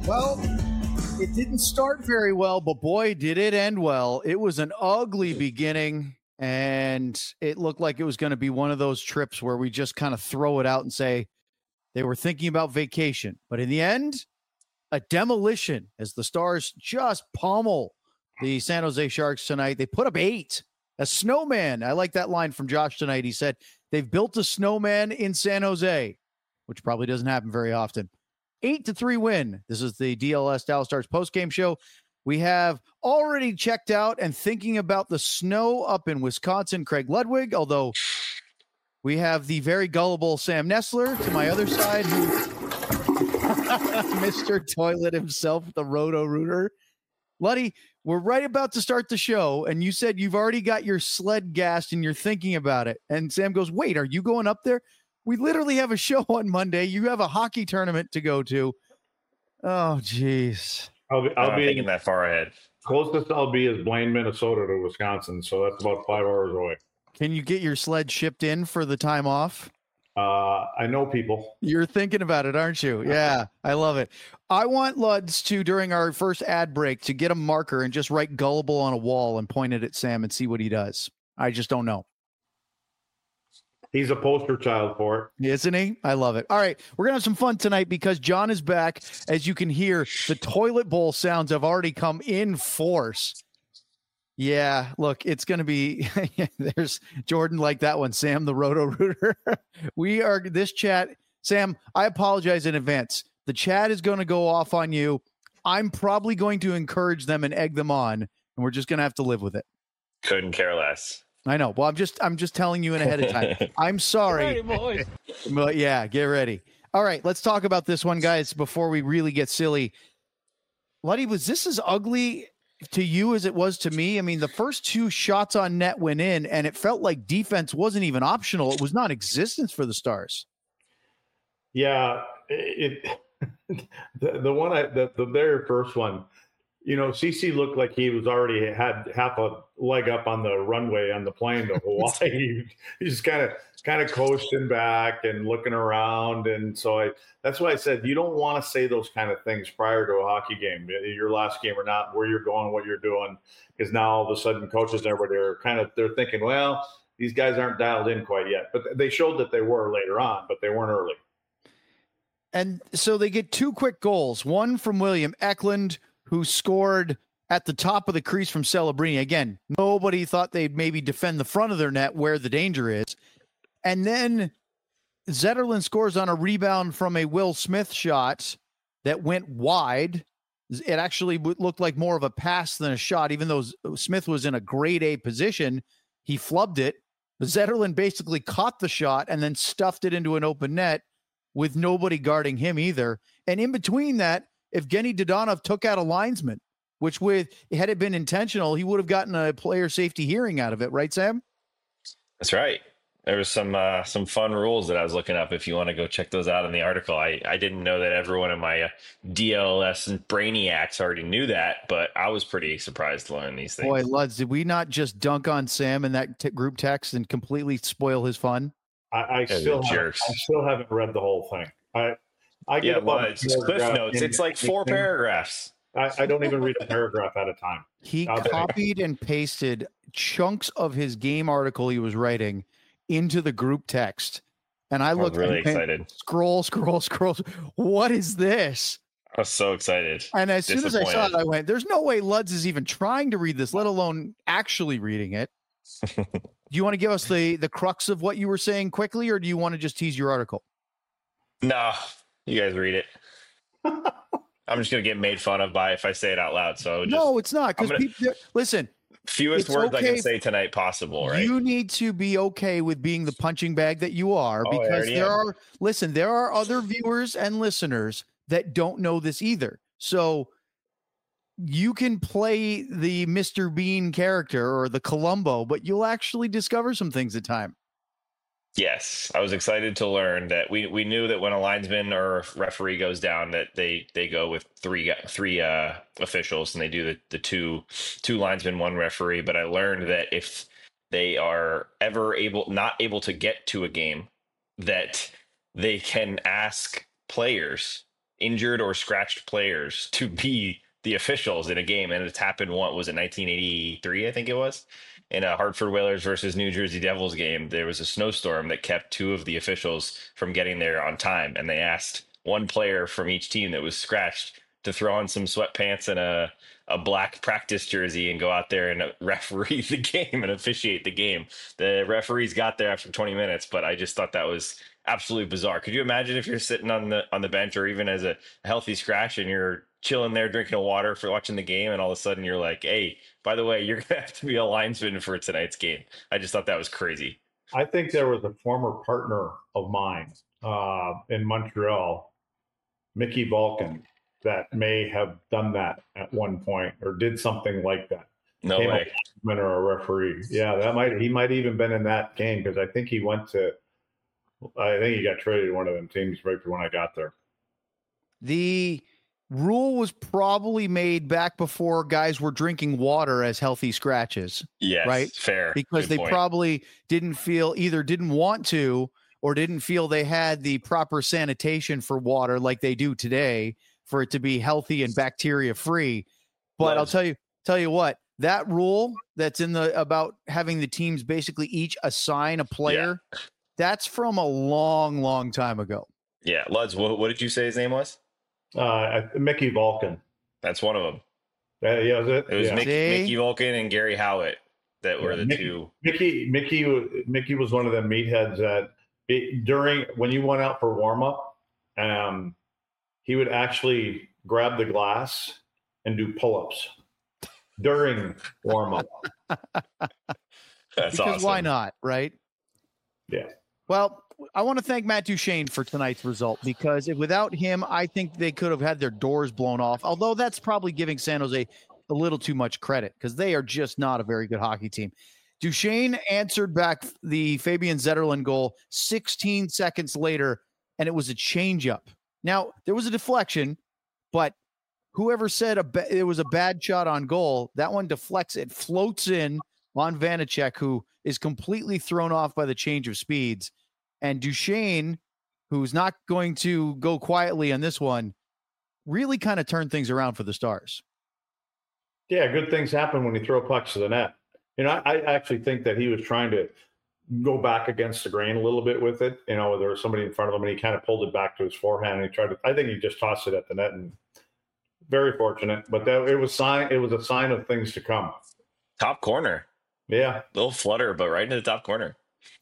Well, it didn't start very well, but boy, did it end well. It was an ugly beginning, and it looked like it was going to be one of those trips where we just kind of throw it out and say they were thinking about vacation. But in the end, a demolition as the Stars just pummel the San Jose Sharks tonight. They put up 8. A snowman. I like that line from Josh tonight. He said they've built a snowman in San Jose, which probably doesn't happen very often. 8-3 win. This is the DLS Dallas Stars postgame show. We have already checked out and thinking about the snow up in Wisconsin, Craig Ludwig, although we have the very gullible Sam Nestler to my other side, who Mr. Toilet himself, the Roto-Rooter. Luddy, we're right about to start the show, and you said you've already got your sled gassed and you're thinking about it. And Sam goes, wait, are you going up there? We literally have a show on Monday. You have a hockey tournament to go to. Oh, geez. I'll be thinking that far ahead. Closest I'll be is Blaine, Minnesota to Wisconsin, so that's about 5 hours away. Can you get your sled shipped in for the time off? I know people. You're thinking about it, aren't you? Yeah, I love it. I want Luds to, during our first ad break, to get a marker and just write gullible on a wall and point it at Sam and see what he does. I just don't know. He's a poster child for it. Isn't he? I love it. All right, we're going to have some fun tonight because John is back. As you can hear, the toilet bowl sounds have already come in force. Yeah, look, it's going to be, there's Jordan like that one, Sam, the Roto-Rooter. This chat, Sam, I apologize in advance. The chat is going to go off on you. I'm probably going to encourage them and egg them on, and we're just going to have to live with it. Couldn't care less. I know. Well, I'm just telling you in ahead of time. I'm sorry. Boys. But yeah, get ready. All right, let's talk about this one, guys, before we really get silly. Luddy, was this as ugly to you as it was to me? I mean, the first 2 shots on net went in, and it felt like defense wasn't even optional. It was non-existent for the Stars. Yeah, the very first one, CC looked like he was already had half a leg up on the runway on the plane to Hawaii. He's kind of coasting back and looking around, and so that's why I said you don't want to say those kind of things prior to a hockey game, your last game or not, where you're going, what you're doing, because now all of a sudden coaches and everybody they're thinking, well, these guys aren't dialed in quite yet, but they showed that they were later on, but they weren't early. And so they get 2 quick goals, one from William Eklund, who scored at the top of the crease from Celebrini. Again, nobody thought they'd maybe defend the front of their net where the danger is. And then Zetterlund scores on a rebound from a Will Smith shot that went wide. It actually looked like more of a pass than a shot, even though Smith was in a grade A position. He flubbed it. Zetterlund basically caught the shot and then stuffed it into an open net with nobody guarding him either. And in between that, Evgeny Dodonov took out a linesman, which had it been intentional, he would have gotten a player safety hearing out of it. Right, Sam? That's right. There was some fun rules that I was looking up. If you want to go check those out in the article, I didn't know that everyone in my DLS and Brainiacs already knew that, but I was pretty surprised to learn these things. Boy, Luds, did we not just dunk on Sam in that group text and completely spoil his fun? I still haven't read the whole thing. I get it's Cliff Notes. It's like 4 paragraphs. I don't even read a paragraph at a time. He copied and pasted chunks of his game article he was writing into the group text. And I looked really excited. Scroll. What is this? I was so excited. And as soon as I saw it, I went, there's no way Luds is even trying to read this, let alone actually reading it. Do you want to give us the crux of what you were saying quickly, or do you want to just tease your article? No, you guys read it. I'm just going to get made fun of by if I say it out loud. So no, it's not. Because listen, fewest words I can say tonight possible, right? You need to be okay with being the punching bag that you are, because there are other viewers and listeners that don't know this either. So you can play the Mr. Bean character or the Columbo, but you'll actually discover some things at time. Yes, I was excited to learn that we knew that when a linesman or a referee goes down, that they go with three officials, and they do the two linesmen, 1 referee. But I learned that if they are ever not able to get to a game, that they can ask players injured or scratched players to be the officials in a game, and it's happened. What was it, 1983? I think it was in a Hartford Whalers versus New Jersey Devils game. There was a snowstorm that kept two of the officials from getting there on time, and they asked one player from each team that was scratched to throw on some sweatpants and a black practice jersey and go out there and referee the game and officiate the game. The referees got there after 20 minutes, but I just thought that was absolutely bizarre. Could you imagine if you're sitting on the bench or even as a healthy scratch and you're chilling there drinking a water for watching the game, and all of a sudden you're like, hey, by the way, you're gonna have to be a linesman for tonight's game? I just thought that was crazy. I think there was a former partner of mine in Montreal, Mickey Vulcan, that may have done that at one point or did something like that. No way. Or a referee. Yeah, he might even been in that game, because I think he got traded to one of them teams right when I got there. The rule was probably made back before guys were drinking water as healthy scratches. Yes, right? Fair. Because Good they point. probably didn't want to, or didn't feel they had the proper sanitation for water like they do today for it to be healthy and bacteria free. But I'll tell you what, that rule that's about having the teams basically each assign a player, that's from a long, long time ago. Yeah. Luds, what did you say his name was? Mickey Vulcan. That's one of them. Yeah, was it? It was Yeah. Mickey Vulcan and Gary Howitt that were the two. Mickey was one of the meatheads that during when you went out for warm up, he would actually grab the glass and do pull-ups during warm-up. That's because awesome. Why not, right? Yeah. Well, I want to thank Matt Duchene for tonight's result, because without him, I think they could have had their doors blown off, although that's probably giving San Jose a little too much credit because they are just not a very good hockey team. Duchene answered back the Fabian Zetterlund goal 16 seconds later, and it was a changeup. Now, there was a deflection, but whoever said it was a bad shot on goal, that one deflects. It floats in on Vanacek, who is completely thrown off by the change of speeds. And Duchene, who's not going to go quietly on this one, really kind of turned things around for the Stars. Yeah, good things happen when you throw pucks to the net. I actually think that he was trying to go back against the grain a little bit with it. There was somebody in front of him and he kind of pulled it back to his forehand and I think he just tossed it at the net, and very fortunate, but it was a sign of things to come. Top corner. Yeah. Little flutter, but right into the top corner.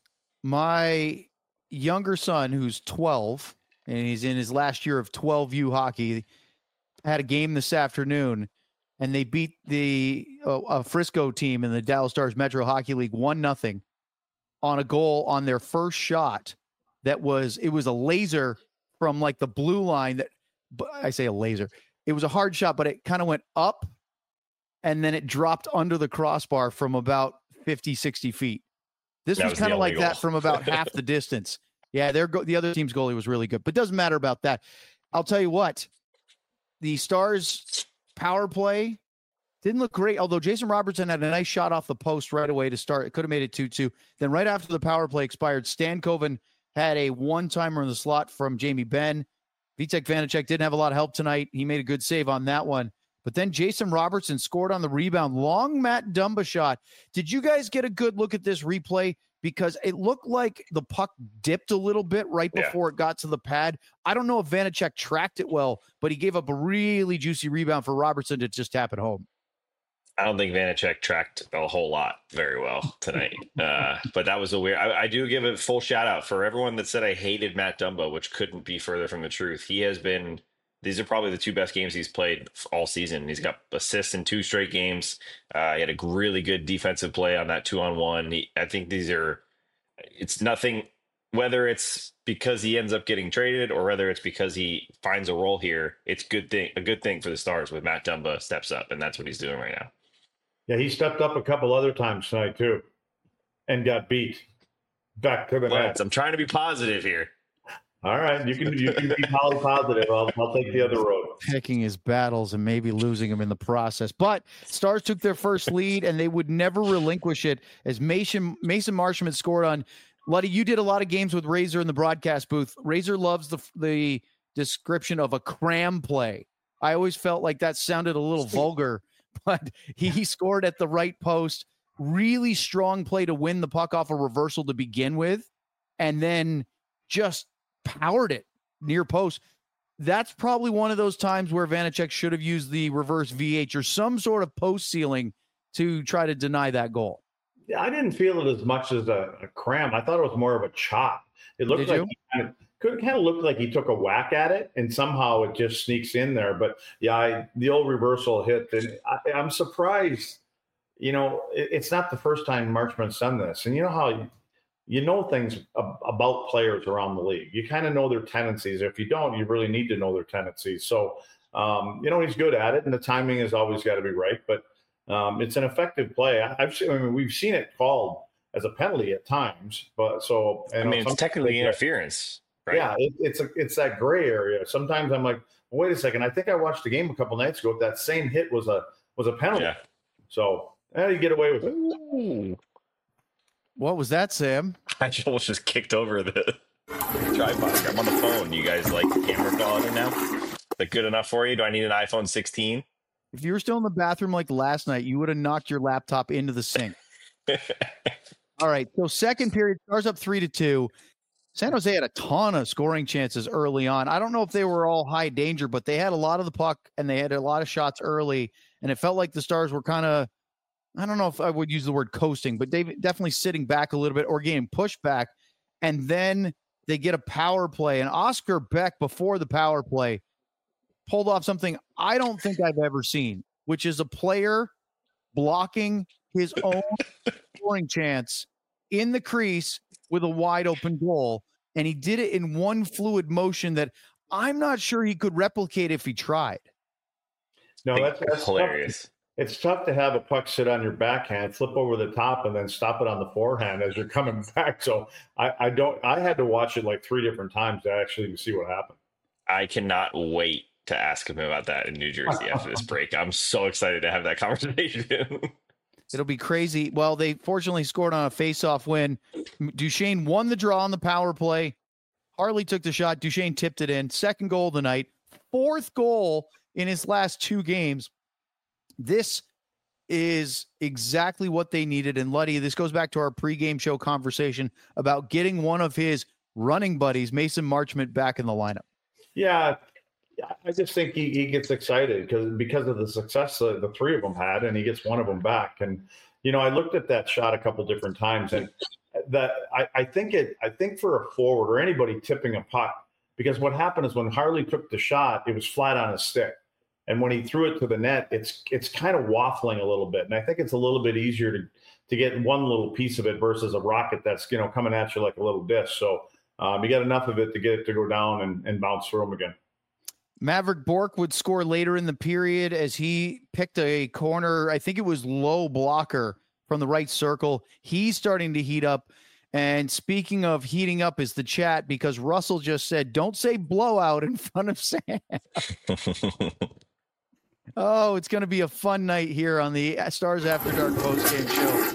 My younger son, who's 12, and he's in his last year of 12U hockey, had a game this afternoon, and they beat the Frisco team in the Dallas Stars Metro Hockey League 1-0 on a goal on their first shot. It was a laser from like the blue line. I say a laser. It was a hard shot, but it kind of went up and then it dropped under the crossbar from about 50, 60 feet. This was kind of like that from about half the distance. Yeah, the other team's goalie was really good, but doesn't matter about that. I'll tell you what, the Stars power play didn't look great, although Jason Robertson had a nice shot off the post right away to start. It could have made it 2-2. Then right after the power play expired, Stankoven had a one-timer in the slot from Jamie Benn. Vitek Vanacek didn't have a lot of help tonight. He made a good save on that one. But then Jason Robertson scored on the rebound. Long Matt Dumba shot. Did you guys get a good look at this replay? Because it looked like the puck dipped a little bit right before it got to the pad. I don't know if Vanacek tracked it well, but he gave up a really juicy rebound for Robertson to just tap it home. I don't think Vanacek tracked a whole lot very well tonight. But that was a weird. I do give a full shout out for everyone that said I hated Matt Dumba, which couldn't be further from the truth. He has been. These are probably the two best games he's played all season. He's got assists in 2 straight games. He had a really good defensive play on that 2-on-1. I think it's nothing, whether it's because he ends up getting traded or whether it's because he finds a role here. It's a good thing for the Stars with Matt Dumba steps up, and that's what he's doing right now. Yeah, he stepped up a couple other times tonight too and got beat back to the net. I'm trying to be positive here. All right, you can be positive. I'll take the other road. Picking his battles and maybe losing him in the process. But Stars took their first lead, and they would never relinquish it as Mason Marchment scored on. Luddy, you did a lot of games with Razor in the broadcast booth. Razor loves the description of a cram play. I always felt like that sounded a little vulgar, but he scored at the right post. Really strong play to win the puck off a reversal to begin with, and then just powered it near post. That's probably one of those times where Vanecek should have used the reverse VH or some sort of post ceiling to try to deny that goal. Yeah, I didn't feel it as much as a cram. I thought it was more of a chop. It looked like he kind of looked like he took a whack at it, and somehow it just sneaks in there. But yeah, the old reversal hit. And I'm surprised. You know, it's not the first time Marchment's done this, and you know how you know things about players around the league. You kind of know their tendencies. If you don't, you really need to know their tendencies. So, you know, he's good at it, and the timing has always got to be right. But it's an effective play. We've seen it called as a penalty at times, but so it's technically interference, right? Yeah, it's that gray area. Sometimes I'm like, well, wait a second. I think I watched the game a couple nights ago. That same hit was a penalty. Yeah. So you get away with it. Ooh. What was that, Sam? I just kicked over the tripod. I'm on the phone. You guys like camera quality now? Is that good enough for you? Do I need an iPhone 16? If you were still in the bathroom like last night, you would have knocked your laptop into the sink. All right. So second period, Stars up 3-2. San Jose had a ton of scoring chances early on. I don't know if they were all high danger, but they had a lot of the puck and they had a lot of shots early. And it felt like the Stars were kind of, I don't know if I would use the word coasting, but they definitely sitting back a little bit or getting pushed back. And then they get a power play. And Oscar Beck, before the power play, pulled off something I don't think I've ever seen, which is a player blocking his own scoring chance in the crease with a wide open goal. And he did it in one fluid motion that I'm not sure he could replicate if he tried. No, that's hilarious. Tough. It's tough to have a puck sit on your backhand, flip over the top, and then stop it on the forehand as you're coming back. So I had to watch it like 3 different times to actually see what happened. I cannot wait to ask him about that in New Jersey after this break. I'm so excited to have that conversation. It'll be crazy. Well, they fortunately scored on a face-off win. Duchesne won the draw on the power play. Harley took the shot. Duchesne tipped it in. Second goal of the night. 4th goal in his last 2 games. This is exactly what they needed. And Luddy, this goes back to our pregame show conversation about getting one of his running buddies, Mason Marchment, back in the lineup. Yeah, I just think he gets excited because of the success the 3 of them had, and he gets one of them back. And you know, I looked at that shot a couple different times, and that I think for a forward or anybody tipping a puck, because what happened is when Harley took the shot, it was flat on his stick, and when he threw it to the net, it's kind of waffling a little bit, and I think it's a little bit easier to get one little piece of it versus a rocket that's coming at you like a little disc. So you got enough of it to get it to go down and bounce through him again. Maverick Bourque would score later in the period as he picked a corner. I think it was low blocker from the right circle. He's starting to heat up. And speaking of heating up is the chat, because Russell just said, don't say blowout in front of Sam. Oh, it's going to be a fun night here on the Stars After Dark postgame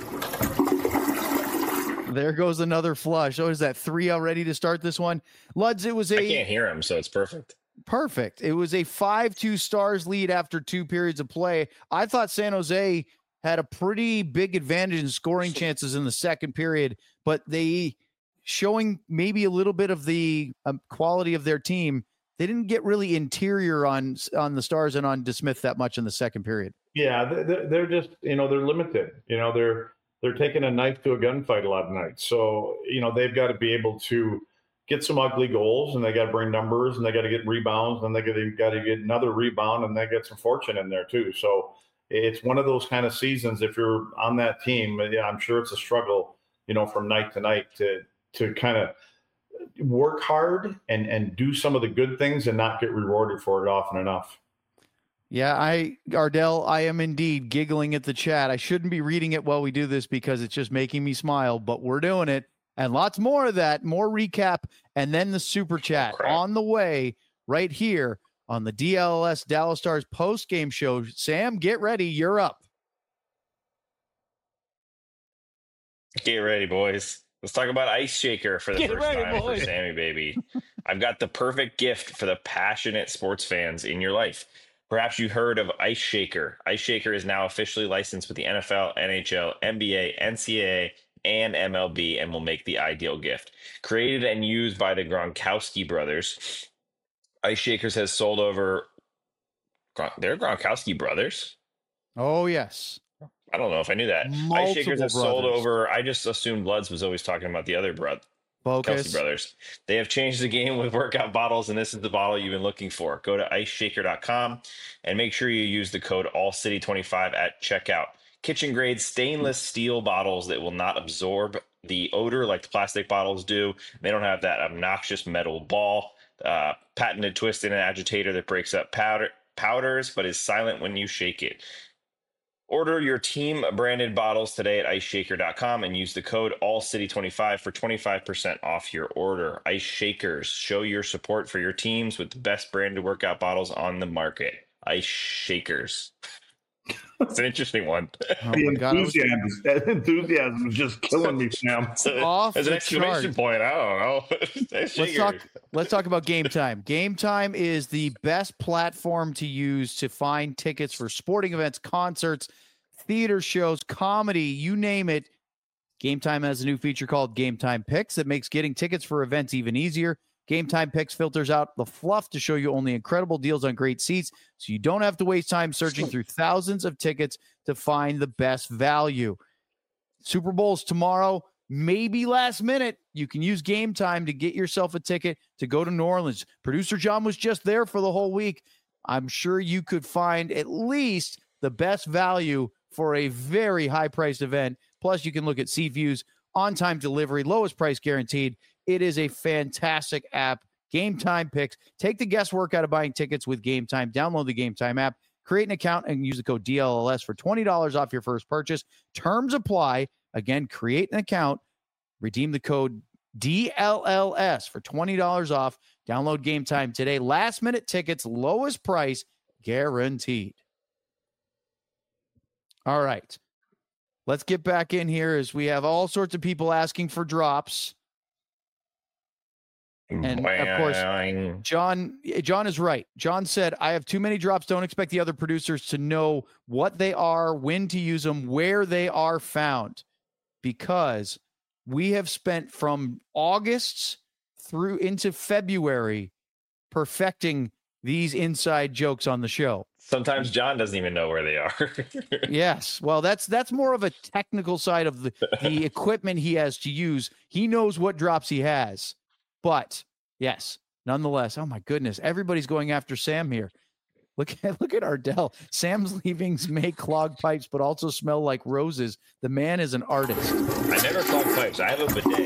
show. There goes another flush. Oh, is that 3 already to start this one? Luds, it was I can't hear him, so it's perfect. Perfect. It was a 5-2 Stars lead after 2 periods of play. I thought San Jose had a pretty big advantage in scoring chances in the second period, but they, showing maybe a little bit of the quality of their team, they didn't get really interior on the Stars and on DeSmith that much in the second period. Yeah, they're just, they're limited. They're taking a knife to a gunfight a lot of nights. So, they've got to be able to get some ugly goals, and they got to bring numbers, and they got to get rebounds, and they got to get another rebound, and they get some fortune in there too. So it's one of those kind of seasons. If you're on that team, yeah, I'm sure it's a struggle, from night to night to kind of work hard and do some of the good things and not get rewarded for it often enough. Yeah, Ardell, I am indeed giggling at the chat. I shouldn't be reading it while we do this because it's just making me smile, but we're doing it. And lots more of that, more recap, and then the super chat on the way right here on the DLS Dallas Stars post-game show. Sam, get ready. You're up. Get ready, boys. Let's talk about Ice Shaker for the first time for Sammy, baby. I've got the perfect gift for the passionate sports fans in your life. Perhaps you heard of Ice Shaker. Ice Shaker is now officially licensed with the NFL, NHL, NBA, NCAA, and MLB and will make the ideal gift. Created and used by the Gronkowski brothers, Ice Shakers has sold over. They're Gronkowski brothers? Oh, yes. I don't know if I knew that. Multiple Ice Shakers have sold brothers. over. I just assumed Luds was always talking about the other brother. Focus. Kelsey brothers. They have changed the game with workout bottles, and this is the bottle you've been looking for. Go to iceshaker.com and make sure you use the code AllCity25 at checkout. Kitchen grade stainless steel bottles that will not absorb the odor like the plastic bottles do. They don't have that obnoxious metal ball, patented twist and agitator that breaks up powders but is silent when you shake it. Order your team branded bottles today at iceshaker.com and use the code AllCity25 for 25% off your order. Ice Shakers, show your support for your teams with the best branded workout bottles on the market. Ice Shakers. It's an interesting one. Oh The my God, enthusiasm is just killing me, Sam. Off As an the exclamation chart. point, I don't know. Ice Shakers. Let's talk about Game Time. Game Time is the best platform to use to find tickets for sporting events, concerts, theater shows, comedy, you name it. Game Time has a new feature called Game Time Picks that makes getting tickets for events even easier. Game Time Picks filters out the fluff to show you only incredible deals on great seats, so you don't have to waste time searching through thousands of tickets to find the best value. Super Bowl's tomorrow, maybe last minute. You can use Game Time to get yourself a ticket to go to New Orleans. Producer John was just there for the whole week. I'm sure you could find at least the best value for a very high-priced event. Plus, you can look at seat views, on-time delivery, lowest price guaranteed. It is a fantastic app. Game Time Picks. Take the guesswork out of buying tickets with Game Time. Download the Game Time app, create an account, and use the code DLLS for $20 off your first purchase. Terms apply. Again, create an account, redeem the code DLLS for $20 off. Download Game Time today. Last-minute tickets, lowest price guaranteed. All right. Let's get back in here as we have all sorts of people asking for drops. And of course, John is right. John said, I have too many drops. Don't expect the other producers to know what they are, when to use them, where they are found, because we have spent from August through into February perfecting these inside jokes on the show. Sometimes John doesn't even know where they are. Yes. Well, that's more of a technical side of the equipment he has to use. He knows what drops he has. But yes, nonetheless, oh my goodness, everybody's going after Sam here. Look at Ardell. Sam's leavings may clog pipes, but also smell like roses. The man is an artist. I never clog pipes. I have a bidet.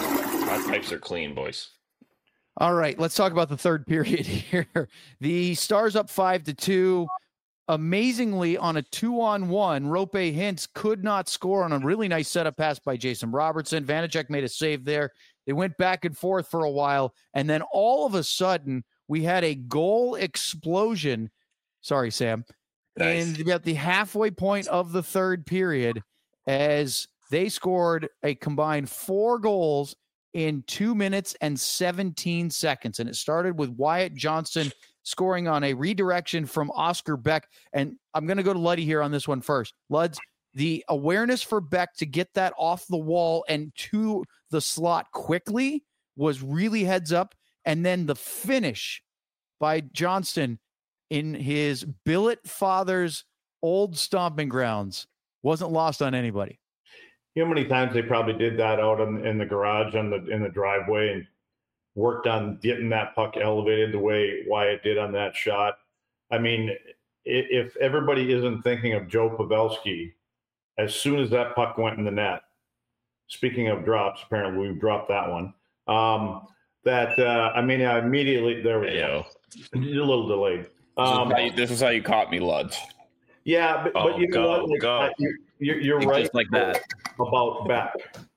My pipes are clean, boys. All right, let's talk about the third period here. The Stars up 5-2. Amazingly, on a 2-on-1, Rope Hintz could not score on a really nice setup pass by Jason Robertson. Vanacek made a save there. They went back and forth for a while, and then all of a sudden, we had a goal explosion. Sorry, Sam. Nice. And about the halfway point of the third period, as they scored a combined 4 goals in 2 minutes and 17 seconds. And it started with Wyatt Johnston scoring on a redirection from Oscar Beck. And I'm going to go to Luddy here on this one first. Luds, the awareness for Beck to get that off the wall and to the slot quickly was really heads up. And then the finish by Johnston in his billet father's old stomping grounds wasn't lost on anybody. You know how many times they probably did that out in the garage in the driveway and worked on getting that puck elevated the way Wyatt did on that shot. I mean, if everybody isn't thinking of Joe Pavelski, as soon as that puck went in the net, speaking of drops, apparently we've dropped that one. Immediately, there we go. A little delayed. This is how you caught me, Ludge. Yeah, but you know what? Go. You're right. Just like that. About Beck.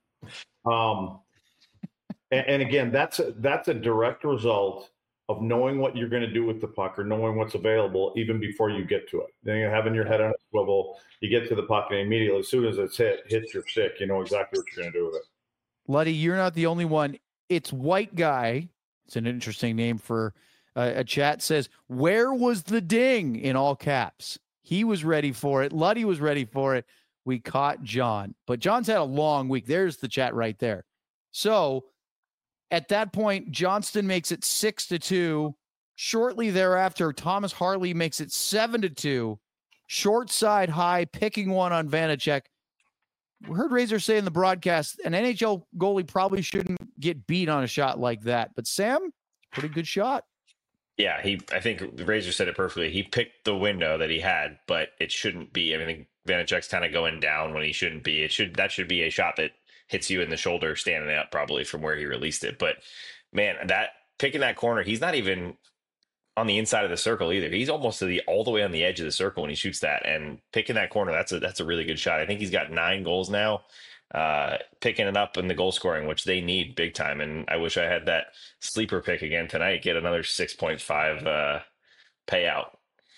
And again, that's a direct result of knowing what you're going to do with the puck or knowing what's available even before you get to it. Then you're having your head on a swivel, you get to the puck, and immediately, as soon as it's hits your stick, you know exactly what you're going to do with it. Luddy, you're not the only one. It's White Guy It's an interesting name for a chat. Says, where was the ding in all caps? He was ready for it. Luddy was ready for it. We caught John. But John's had a long week. There's the chat right there. So at that point, Johnston makes it 6-2. Shortly thereafter, Thomas Harley makes it 7-2. Short side high, picking one on Vanacek. We heard Razor say in the broadcast, an NHL goalie probably shouldn't get beat on a shot like that. But Sam, pretty good shot. Yeah, I think Razor said it perfectly. He picked the window that he had, but it shouldn't be. I think Vanacek's kind of going down when he shouldn't be. That should be a shot that hits you in the shoulder standing up probably from where he released it. But man, that picking that corner, he's not even on the inside of the circle either. He's almost all the way on the edge of the circle when he shoots that, and picking that corner, that's a really good shot. I think he's got 9 goals now, picking it up in the goal scoring, which they need big time. And I wish I had that sleeper pick again tonight, get another 6.5 payout.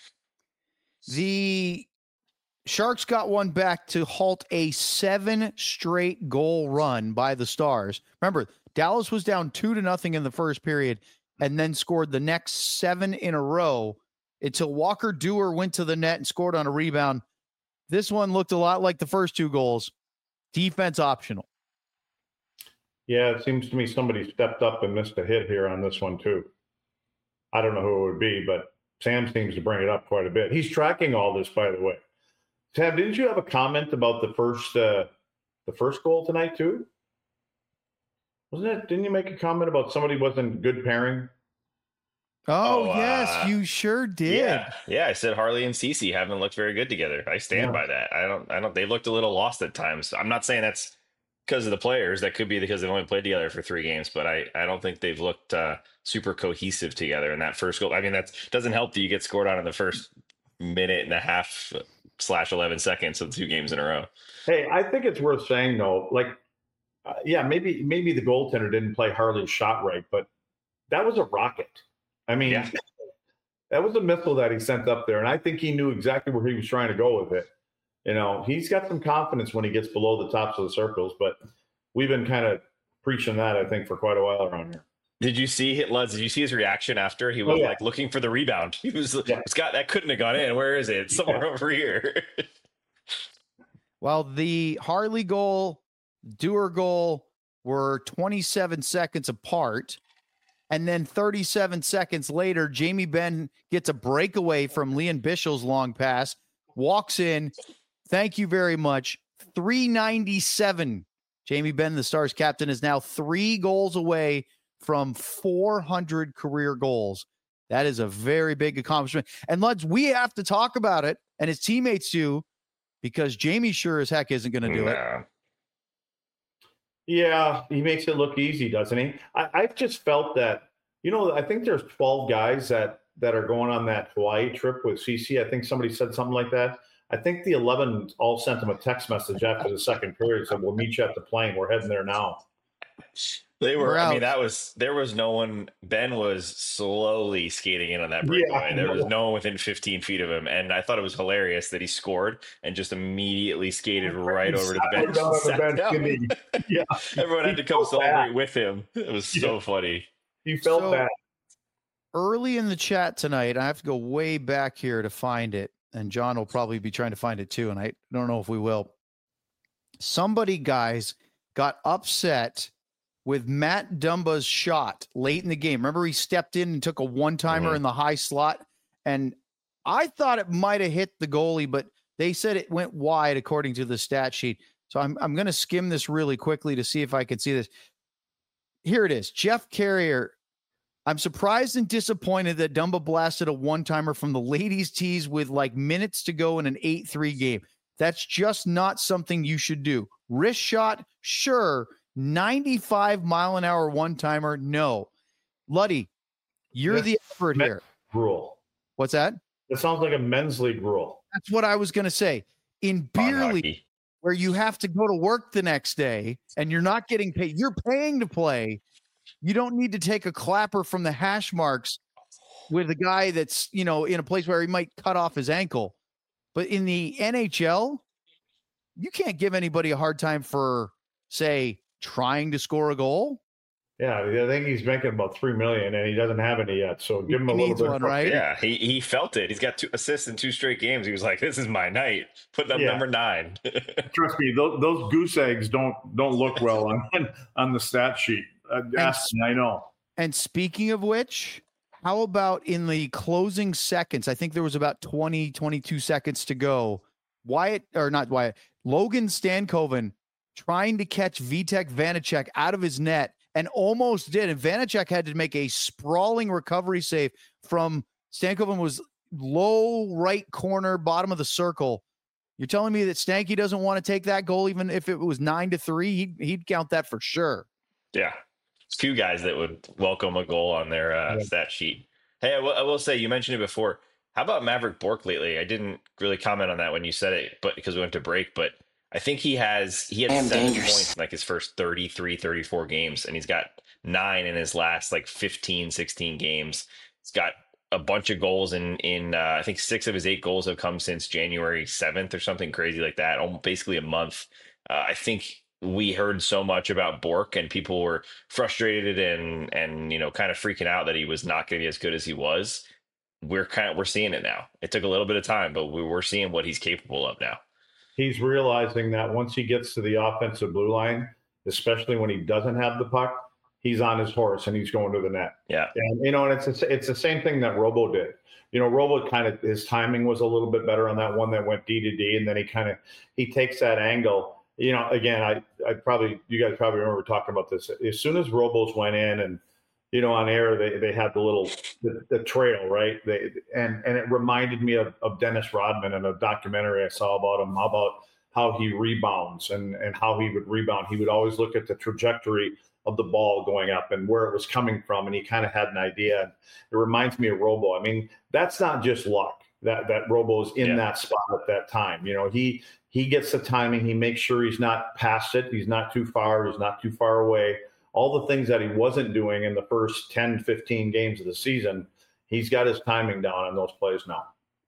The Sharks got one back to halt a 7 straight goal run by the Stars. Remember, Dallas was down 2-0 in the first period and then scored the next 7 in a row until Walker Duehr went to the net and scored on a rebound. This one looked a lot like the first 2 goals. Defense optional. Yeah, it seems to me somebody stepped up and missed a hit here on this one too. I don't know who it would be, but Sam seems to bring it up quite a bit. He's tracking all this, by the way. Sam, didn't you have a comment about the first goal tonight too? Wasn't it? Didn't you make a comment about somebody wasn't good pairing? Oh, yes, you sure did. Yeah. I said Harley and Ceci haven't looked very good together. I stand by that. I don't. They looked a little lost at times. I'm not saying that's because of the players. That could be because they've only played together for 3 games. But I don't think they've looked super cohesive together in that first goal. I mean, that doesn't help that you get scored on in the first minute and a half / 11 seconds of 2 games in a row. Hey, I think it's worth saying though, like. Maybe the goaltender didn't play Harley's shot right, but that was a rocket. I mean, that was a missile that he sent up there, and I think he knew exactly where he was trying to go with it. You know, he's got some confidence when he gets below the tops of the circles, but we've been kind of preaching that, I think, for quite a while around here. Did you see Lutz? Did you see his reaction after he was like looking for the rebound? He was Scott, that couldn't have gone in. Where is it? It's somewhere over here. Well, the Harley goal, Duehr goal were 27 seconds apart. And then 37 seconds later, Jamie Benn gets a breakaway from Lian Bischel's long pass, walks in. Thank you very much. 397. Jamie Benn, the Stars captain, is now 3 goals away from 400 career goals. That is a very big accomplishment. And Luds, we have to talk about it, and his teammates do, because Jamie sure as heck isn't going to do it. Yeah, he makes it look easy, doesn't he? I've just felt that, I think there's 12 guys that are going on that Hawaii trip with CC. I think somebody said something like that. I think the 11 all sent him a text message after the second period, said, we'll meet you at the plane. We're heading there now. They were, I mean, there was no one. Ben was slowly skating in on that breakaway. There was no one within 15 feet of him. And I thought it was hilarious that he scored and just immediately skated right over to the bench. Yeah. Everyone had to come celebrate with him. It was so funny. He felt bad. Early in the chat tonight, I have to go way back here to find it. And John will probably be trying to find it too. And I don't know if we will. Somebody, guys, got upset with Matt Dumba's shot late in the game. Remember, he stepped in and took a one-timer in the high slot, and I thought it might have hit the goalie, but they said it went wide according to the stat sheet. So I'm going to skim this really quickly to see if I can see this. Here it is. Jeff Carrier. I'm surprised and disappointed that Dumba blasted a one-timer from the ladies' tees with like minutes to go in an 8-3 game. That's just not something you should do. Wrist shot, sure. 95-mile-an-hour one-timer, no. Luddy, you're the expert here. Rule. What's that? That sounds like a men's league rule. That's what I was going to say. In beer league, where you have to go to work the next day and you're not getting paid, you're paying to play. You don't need to take a clapper from the hash marks with a guy that's, in a place where he might cut off his ankle. But in the NHL, you can't give anybody a hard time for, say, trying to score a goal. Yeah, I think he's making about $3 million, and he doesn't have any yet. So give him a He little needs bit. one, right? Yeah, he felt it. He's got 2 assists in 2 straight games. He was like, "This is my night." Putting up Yeah. number 9. Trust me, those goose eggs don't look well on the stat sheet. Ask me, I know. And speaking of which, how about in the closing seconds? I think there was about 20, 22 seconds to go. Logan Stankoven trying to catch Vitek Vanacek out of his net and almost did. And Vanacek had to make a sprawling recovery save from Stankoven was low right corner, bottom of the circle. You're telling me that Stanky doesn't want to take that goal, even if it was 9-3, he'd count that for sure. Yeah. There's few guys that would welcome a goal on their stat sheet. Hey, I will say, you mentioned it before. How about Maverick Bourque lately? I didn't really comment on that when you said it, but because we went to break, but I think he had 7 points in like his first 33, 34 games, and he's got 9 in his last like 15, 16 games. He's got a bunch of goals in I think 6 of his 8 goals have come since January 7th or something crazy like that, almost basically a month. I think we heard so much about Bourque, and people were frustrated and kind of freaking out that he was not going to be as good as he was. We're seeing it now. It took a little bit of time, but we're seeing what he's capable of now. He's realizing that once he gets to the offensive blue line, especially when he doesn't have the puck, he's on his horse and he's going to the net. Yeah. And, and it's the same thing that Robo did. Robo his timing was a little bit better on that one that went D to D. And then he takes that angle. Again, you guys probably remember talking about this. As soon as Robos went in and, on air, they had the trail, right? And it reminded me of Dennis Rodman in a documentary I saw about him, about how he rebounds and how he would rebound. He would always look at the trajectory of the ball going up and where it was coming from, and he kind of had an idea. It reminds me of Robo. I mean, that's not just luck that Robo's in that spot at that time. He gets the timing. He makes sure he's not past it. He's not too far. He's not too far away. All the things that he wasn't doing in the first 10, 15 games of the season, he's got his timing down on those plays now.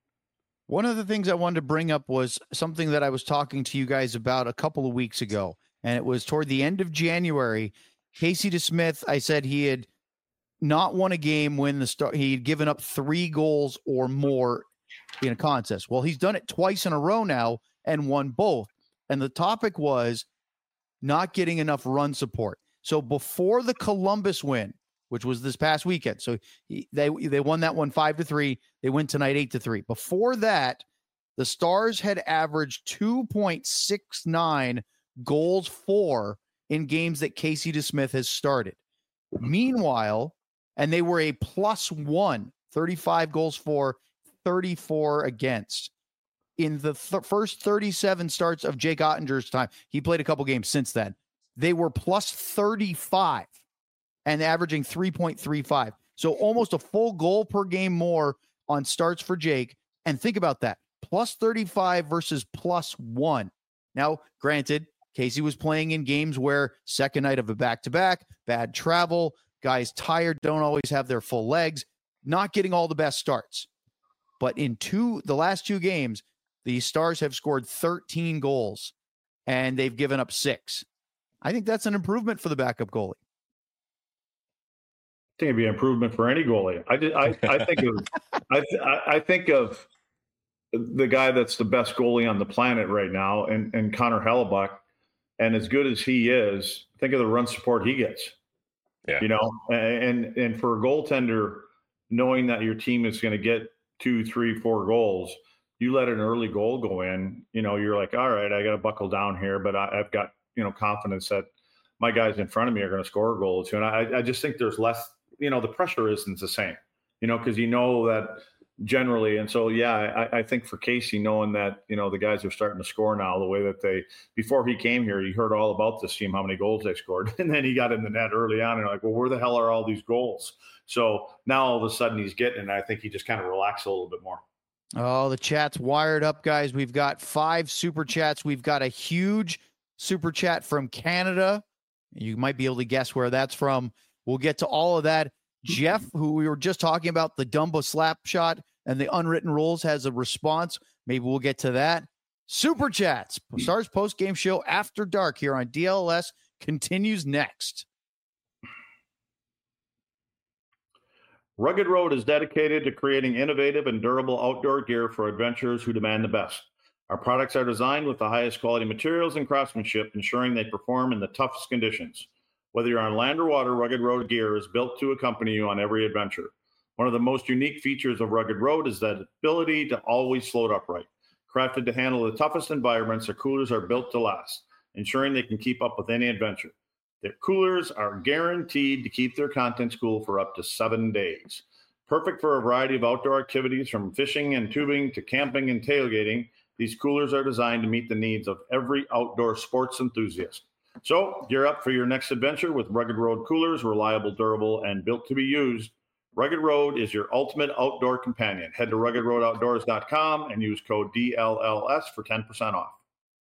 One of the things I wanted to bring up was something that I was talking to you guys about a couple of weeks ago, and it was toward the end of January. Casey DeSmith, I said he had not won a game when he had given up 3 goals or more in a contest. Well, he's done it twice in a row now and won both. And the topic was not getting enough run support. So before the Columbus win, which was this past weekend, so they won that one 5-3. They win tonight 8-3. Before that, the Stars had averaged 2.69 goals for in games that Casey DeSmith has started. Meanwhile, and they were a +1, 35 goals for, 34 against. In the first 37 starts of Jake Ottinger's time, he played a couple games since then, they were +35 and averaging 3.35. So almost a full goal per game more on starts for Jake. And think about that, +35 versus +1. Now, granted, Casey was playing in games where second night of a back-to-back, bad travel, guys tired, don't always have their full legs, not getting all the best starts. But in the last 2 games, the Stars have scored 13 goals and they've given up 6. I think that's an improvement for the backup goalie. I think it'd be an improvement for any goalie. I think of the guy that's the best goalie on the planet right now, and Connor Hellebuck. And as good as he is, think of the run support he gets. Yeah. And for a goaltender, knowing that your team is going to get 2, 3, 4 goals, you let an early goal go in, you're like, all right, I got to buckle down here, but I've got, confidence that my guys in front of me are going to score a goal or 2. And I just think there's less, the pressure isn't the same, because that generally. And so, I think for Casey, knowing that, the guys are starting to score now the way that before he came here, you heard all about this team, how many goals they scored. And then he got in the net early on and you're like, well, where the hell are all these goals? So now all of a sudden he's getting it. And I think he just kind of relaxed a little bit more. Oh, the chat's wired up, guys. We've got 5 super chats. We've got a huge super chat from Canada. You might be able to guess where that's from. We'll get to all of that. Jeff, who we were just talking about, the Dumbo slap shot and the unwritten rules, has a response. Maybe we'll get to that. Super chats. Stars post-game show after dark here on DLS continues next. Rugged Road is dedicated to creating innovative and durable outdoor gear for adventurers who demand the best. Our products are designed with the highest quality materials and craftsmanship, ensuring they perform in the toughest conditions. Whether you're on land or water, Rugged Road gear is built to accompany you on every adventure. One of the most unique features of Rugged Road is that ability to always float upright. Crafted to handle the toughest environments, their coolers are built to last, ensuring they can keep up with any adventure. Their coolers are guaranteed to keep their contents cool for up to 7 days. Perfect for a variety of outdoor activities, from fishing and tubing to camping and tailgating. These coolers are designed to meet the needs of every outdoor sports enthusiast. So gear up for your next adventure with Rugged Road coolers, reliable, durable, and built to be used. Rugged Road is your ultimate outdoor companion. Head to ruggedroadoutdoors.com and use code DLLS for 10% off.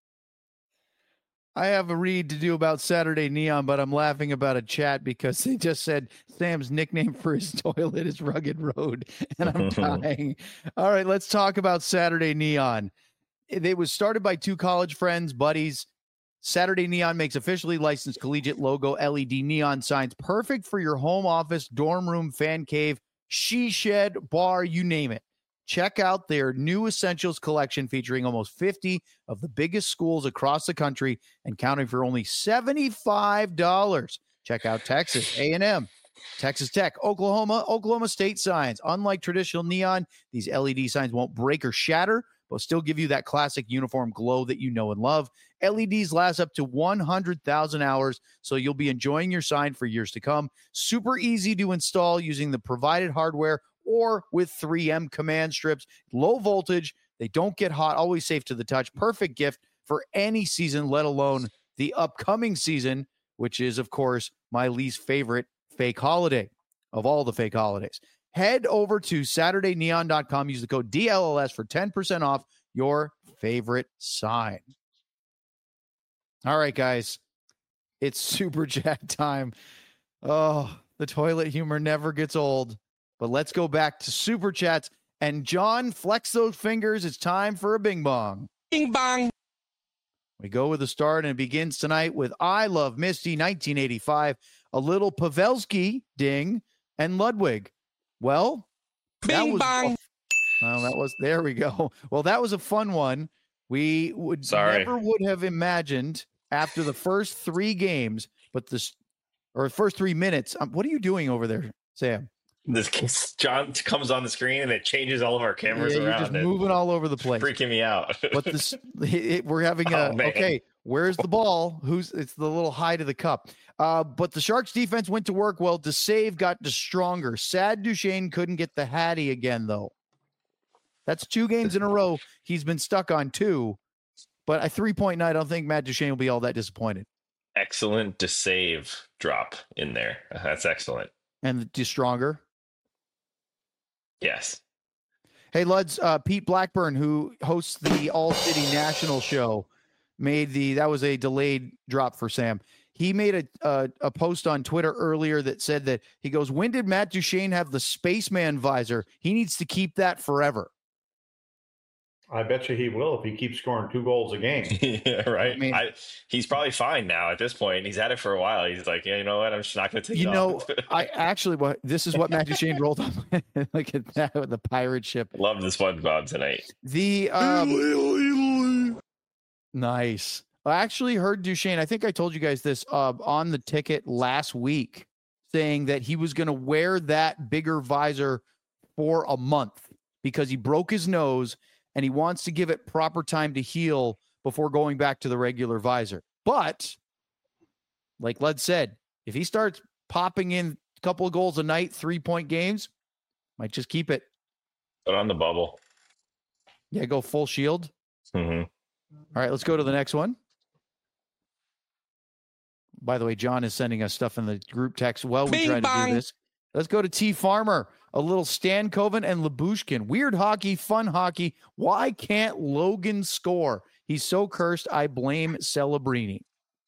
I have a read to do about Saturday Neon, but I'm laughing about a chat because they just said Sam's nickname for his toilet is Rugged Road, and I'm dying. All right, let's talk about Saturday Neon. It was started by two college friends, buddies. Saturday Neon makes officially licensed collegiate logo LED neon signs, perfect for your home office, dorm room, fan cave, she shed, bar, you name it. Check out their new Essentials collection featuring almost 50 of the biggest schools across the country and counting for only $75. Check out Texas A&M, Texas Tech, Oklahoma State signs. Unlike traditional neon, these LED signs won't break or shatter, but still give you that classic uniform glow that you know and love. LEDs last up to 100,000 hours, so you'll be enjoying your sign for years to come. Super easy to install using the provided hardware or with 3M command strips. Low voltage, they don't get hot, always safe to the touch. Perfect gift for any season, let alone the upcoming season, which is, of course, my least favorite fake holiday of all the fake holidays. Head over to SaturdayNeon.com. Use the code DLLS for 10% off your favorite sign. All right, guys. It's super chat time. Oh, the toilet humor never gets old. But let's go back to super chats. And John, flex those fingers. It's time for a bing bong. Bing bong. We go with the start, and it begins tonight with I Love Misty, 1985, a little Pavelski, ding, and Ludwig. Well, bing bong. There we go. Well, that was a fun one. We never would have imagined after the first 3 games, first 3 minutes. What are you doing over there, Sam? This John comes on the screen and it changes all of our cameras around. You're just moving all over the place, freaking me out. But we're having okay. Where's the ball? It's the little high to the cup. But the Sharks defense went to work. Well, DeSave got stronger. Sad Duchesne couldn't get the Hattie again, though. That's 2 games in a row. He's been stuck on 2. But a 3-point night, I don't think Matt Duchesne will be all that disappointed. Excellent DeSave drop in there. That's excellent. And stronger. Yes. Hey, Luds, Pete Blackburn, who hosts the All City National show, that was a delayed drop for Sam. He made a post on Twitter earlier that said that he goes, when did Matt Duchesne have the spaceman visor? He needs to keep that forever. I bet you he will if he keeps scoring 2 goals a game. Yeah, right. I mean, he's probably fine now at this point. He's had it for a while. He's like, yeah, you know what? I'm just not going to take it off. This is what Matt Duchesne rolled on. Look at that with the pirate ship. Love the SpongeBob tonight. Nice. I actually heard Duchesne. I think I told you guys this on the ticket last week, saying that he was going to wear that bigger visor for a month because he broke his nose and he wants to give it proper time to heal before going back to the regular visor. But like Lud said, if he starts popping in a couple of goals a night, 3-point games, might just keep it. Put on the bubble. Yeah, go full shield. Mm-hmm. All right, let's go to the next one. By the way, John is sending us stuff in the group text. Well, we tried to do this. Let's go to T Farmer. A little Stankoven and Lyubushkin. Weird hockey, fun hockey. Why can't Logan score? He's so cursed. I blame Celebrini.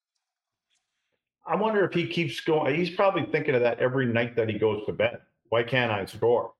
I wonder if he keeps going. He's probably thinking of that every night that he goes to bed. Why can't I score?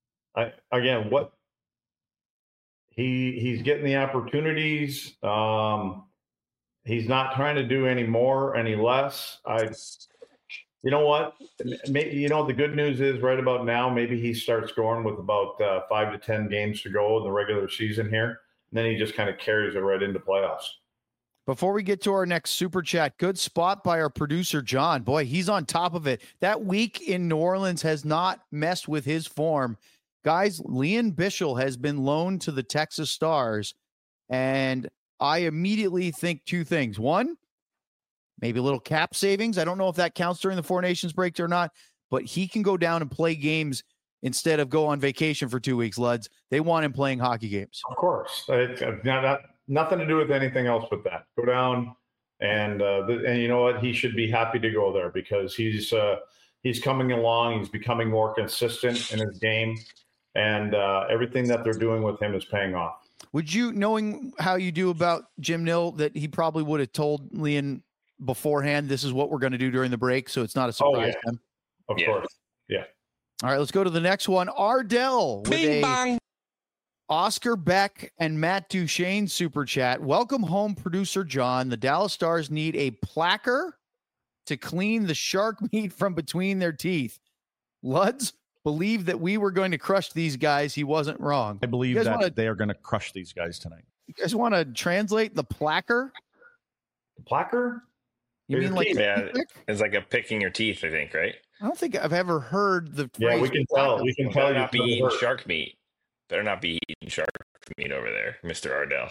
He's getting the opportunities. He's not trying to do any more, any less. You know what? Maybe, the good news is right about now, maybe he starts scoring with about 5 to 10 games to go in the regular season here. And then he just kind of carries it right into playoffs. Before we get to our next super chat, good spot by our producer, John. Boy, he's on top of it. That week in New Orleans has not messed with his form. Guys, Leon Bichel has been loaned to the Texas Stars, and I immediately think two things. One, maybe a little cap savings. I don't know if that counts during the Four Nations break or not, but he can go down and play games instead of go on vacation for 2 weeks, Luds. They want him playing hockey games. Of course. It's nothing to do with anything else but that. Go down, and you know what? He should be happy to go there because he's coming along. He's becoming more consistent in his game, and everything that they're doing with him is paying off. Would you, knowing how you do about Jim Nill, that he probably would have told Leon beforehand, this is what we're going to do during the break, so it's not a surprise to him? Of course. Yeah. All right, let's go to the next one. Ardell with Bing bong. Oscar Beck and Matt Duchesne super chat. Welcome home, producer John. The Dallas Stars need a placker to clean the shark meat from between their teeth. Luds believed that we were going to crush these guys. He wasn't wrong. I believe that they are going to crush these guys tonight. You guys want to translate the placker? The placker? You mean like it's like a picking your teeth, I think, right? I don't think I've ever heard the phrase. Yeah, we can tell. We can tell Better you not be eating shark meat. Better not be eating shark meat over there, Mr. Ardell.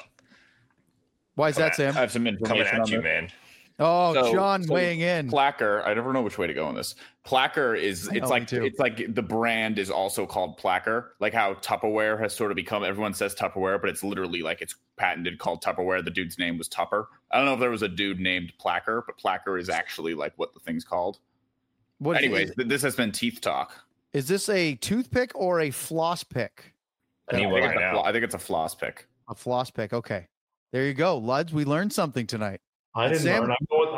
Why is that, Sam? I have some information Coming at you, this. man. Oh, John weighing in. Placker. I never know which way to go on this. Placker is it's like the brand is also called Placker, like how Tupperware has sort of become. Everyone says Tupperware, but it's literally like it's patented called Tupperware. The dude's name was Tupper. I don't know if there was a dude named Placker, but Placker is actually like what the thing's called. Anyways, this has been Teeth Talk. Is this a toothpick or a floss pick? I think it's a floss pick. A floss pick. Okay, there you go, Luds. We learned something tonight. I didn't learn.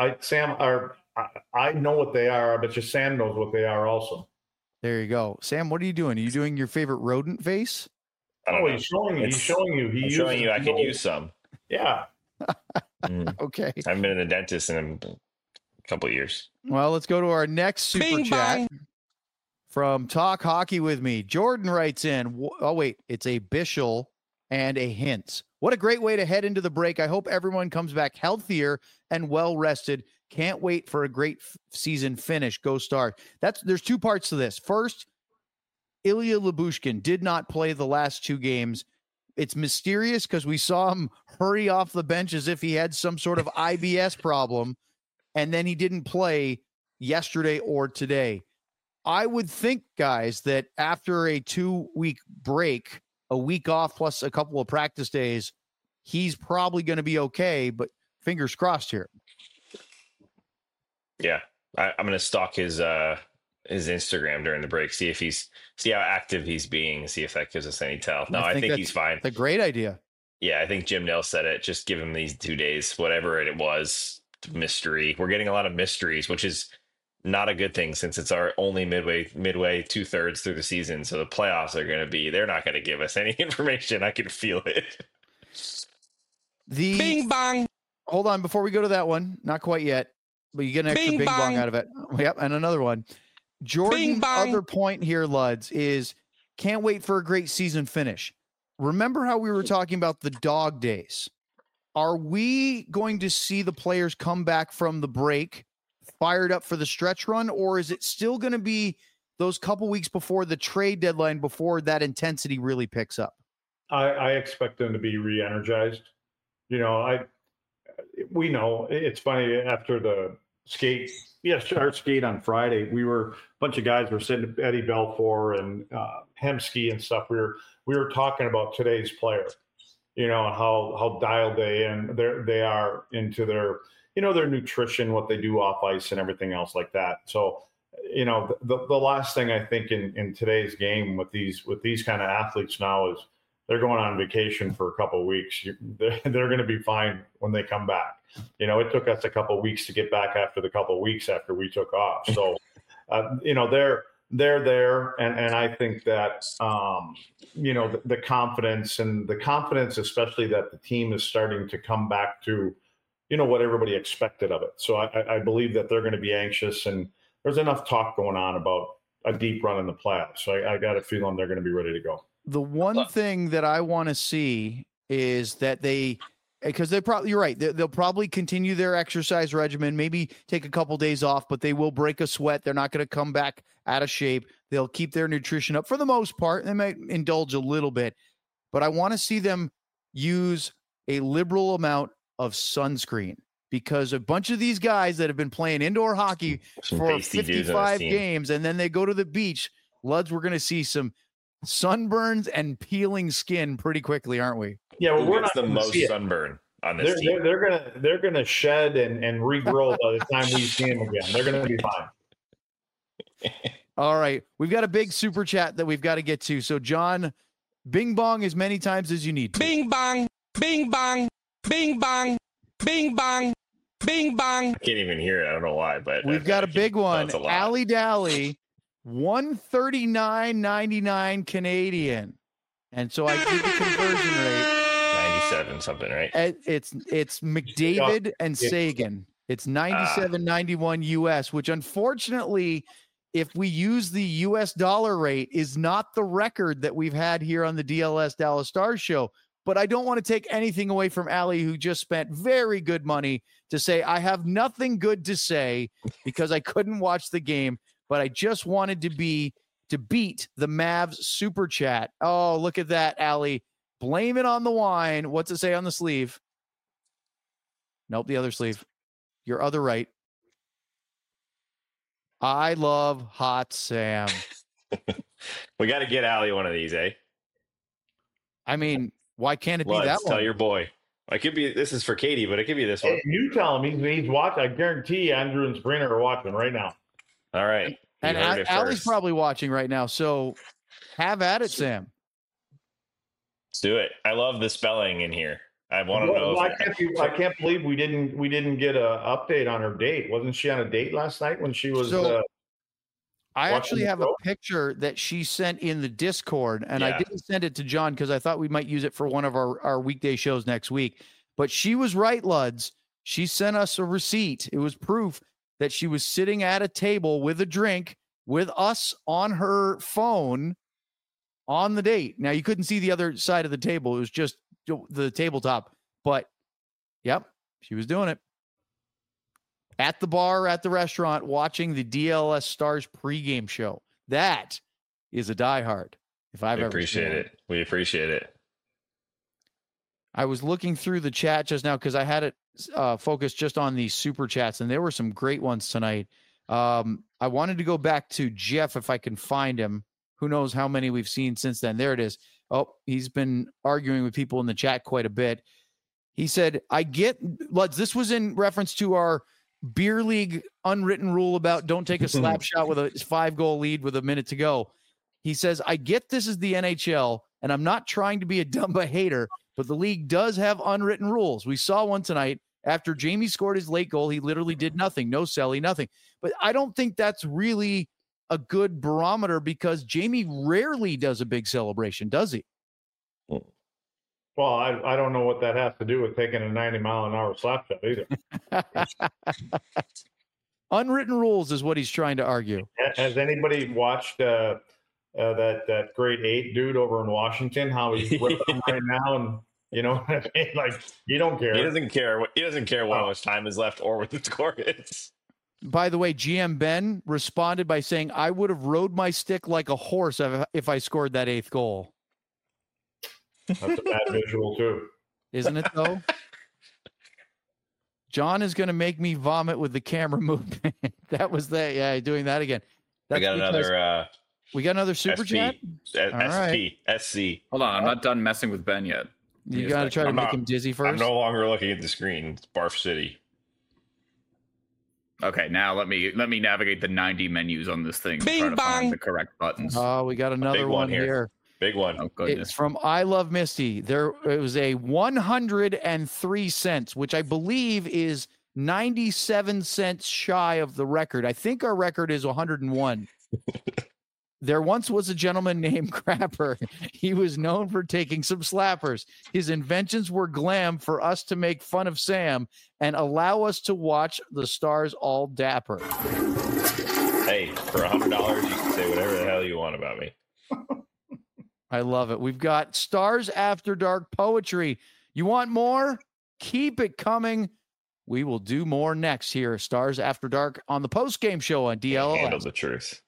I know what they are. I bet you Sam knows what they are also. There you go, Sam. What are you doing? Are you doing your favorite rodent face? He's showing you. He's showing you. I'm showing you. I can use some. Yeah. Okay. I haven't been in the dentist in a couple of years. Well, let's go to our next super Bing chat bong. from Talk Hockey with Me. Jordan writes in. Oh wait, it's a Bichel and a Hintz. What a great way to head into the break. I hope everyone comes back healthier and well rested. Can't wait for a great season finish. Go Stars. There's two parts to this. First, Ilya Lyubushkin did not play the last two games. It's mysterious because we saw him hurry off the bench as if he had some sort of IBS problem, and then he didn't play yesterday or today. I would think, guys, that after a 2-week break, a week off plus a couple of practice days, he's probably going to be okay, but fingers crossed here. Yeah. I'm going to stalk his Instagram during the break, see how active he's being, see if that gives us any tell. No, I think he's fine. It's a great idea. Yeah. I think Jim Nill said it. Just give him these 2 days, whatever it was, mystery. We're getting a lot of mysteries, which is not a good thing since it's our only midway 2/3 through the season. So the playoffs are going to be, they're not going to give us any information. I can feel it. Bing bong. Hold on. Before we go to that one, not quite yet, but you get an extra bing bong out of it. Yep. And another one. Jordan's other point here, Luds, is can't wait for a great season finish. Remember how we were talking about the dog days? Are we going to see the players come back from the break fired up for the stretch run, or is it still going to be those couple weeks before the trade deadline before that intensity really picks up? I expect them to be re-energized. We know it's funny after the skate. Yes, our skate on Friday, a bunch of guys were sitting at Eddie Belfour and Hemsky and stuff. We were talking about today's player, how dialed they are into their, their nutrition, what they do off ice and everything else like that. So, the last thing I think in today's game with these kind of athletes now is they're going on vacation for a couple of weeks. They're going to be fine when they come back. It took us a couple of weeks to get back after the couple of weeks after we took off. So, they're there. And I think that, the confidence, especially that the team is starting to come back to, what everybody expected of it. So I believe that they're going to be anxious and there's enough talk going on about a deep run in the playoffs. So I got a feeling they're going to be ready to go. The one thing that I want to see is that because you're right. They'll probably continue their exercise regimen, maybe take a couple days off, but they will break a sweat. They're not going to come back out of shape. They'll keep their nutrition up for the most part. They might indulge a little bit, but I want to see them use a liberal amount of sunscreen, because a bunch of these guys that have been playing indoor hockey for 55 games and then they go to the beach, Luds, we're going to see some sunburns and peeling skin pretty quickly, aren't we? Yeah, well, we're not the most sunburn on this team. They're gonna shed and regrow by the time we see them again. They're gonna be fine. All right, we've got a big super chat that we've got to get to. So, John, bing bong as many times as you need to. Bing bong, bing bong, bing bong, bing bong, bing bong. I can't even hear it. I don't know why, but we've got a big one. Allie Dally, $139.99 Canadian, and so I give the conversion rate. 97 something, right? It's McDavid and Sagan. It's 97.91 US, which unfortunately, if we use the US dollar rate, is not the record that we've had here on the DLS Dallas Stars show. But I don't want to take anything away from Allie, who just spent very good money to say, I have nothing good to say because I couldn't watch the game, but I just wanted to beat the Mavs super chat. Oh, look at that, Allie. Blame it on the wine. What's it say on the sleeve? Nope, the other sleeve. Your other right. I love Hot Sam. We got to get Allie one of these, eh? I mean, why can't it be that one? Tell your boy. I could be. This is for Katie, but it could be this one. Hey, you tell him he's watching. I guarantee Andrew and Sabrina are watching right now. All right. And Allie's probably watching right now. So have at it, Sam. Let's do it. I love the spelling in here. I want to know. I can't believe we didn't get an update on her date. Wasn't she on a date last night when she was? I actually have a picture that she sent in the Discord, and I didn't send it to John because I thought we might use it for one of our weekday shows next week. But she was right, Luds. She sent us a receipt. It was proof that she was sitting at a table with a drink with us on her phone on the date. Now, you couldn't see the other side of the table. It was just the tabletop. But, yep, she was doing it. At the bar, at the restaurant, watching the DLS Stars pregame show. That is a diehard. If I've ever seen it. We appreciate it. I was looking through the chat just now because I had it focused just on the super chats, and there were some great ones tonight. I wanted to go back to Jeff if I can find him. Who knows how many we've seen since then. There it is. Oh, he's been arguing with people in the chat quite a bit. He said, Luds, this was in reference to our beer league unwritten rule about don't take a slap shot with a 5-goal lead with a minute to go. He says, I get this is the NHL, and I'm not trying to be a Dumba hater, but the league does have unwritten rules. We saw one tonight. After Jamie scored his late goal, he literally did nothing. No celly, nothing. But I don't think that's really a good barometer because Jamie rarely does a big celebration, does he? Well, I don't know what that has to do with taking a 90-mile-an-hour slap shot either. Unwritten rules is what he's trying to argue. Has anybody watched that grade 8 dude over in Washington? How he's whipping right now, and you know, like you don't care. He doesn't care. He doesn't care how much time is left or what the score is. By the way, GM Ben responded by saying, "I would have rode my stick like a horse if I scored that 8th goal." That's a bad visual too, isn't it? Though. John is going to make me vomit with the camera movement. That was that. Yeah, doing that again. That's we got another super chat. SC. Hold on, I'm not done messing with Ben yet. You got to try to make him dizzy first. I'm no longer looking at the screen. It's Barf City. Okay, now let me navigate the 90 menus on this thing. Bing try to bong. Find the correct buttons. Oh, we got another one here. Big one. Oh, goodness. It's from I Love Misty. It was a 103 cents, which I believe is 97 cents shy of the record. I think our record is 101. There once was a gentleman named Crapper. He was known for taking some slappers. His inventions were glam for us to make fun of Sam and allow us to watch the Stars all dapper. Hey, for $100, you can say whatever the hell you want about me. I love it. We've got Stars After Dark poetry. You want more? Keep it coming. We will do more next here. Stars After Dark on the post-game show on DLLS. Handle the truth.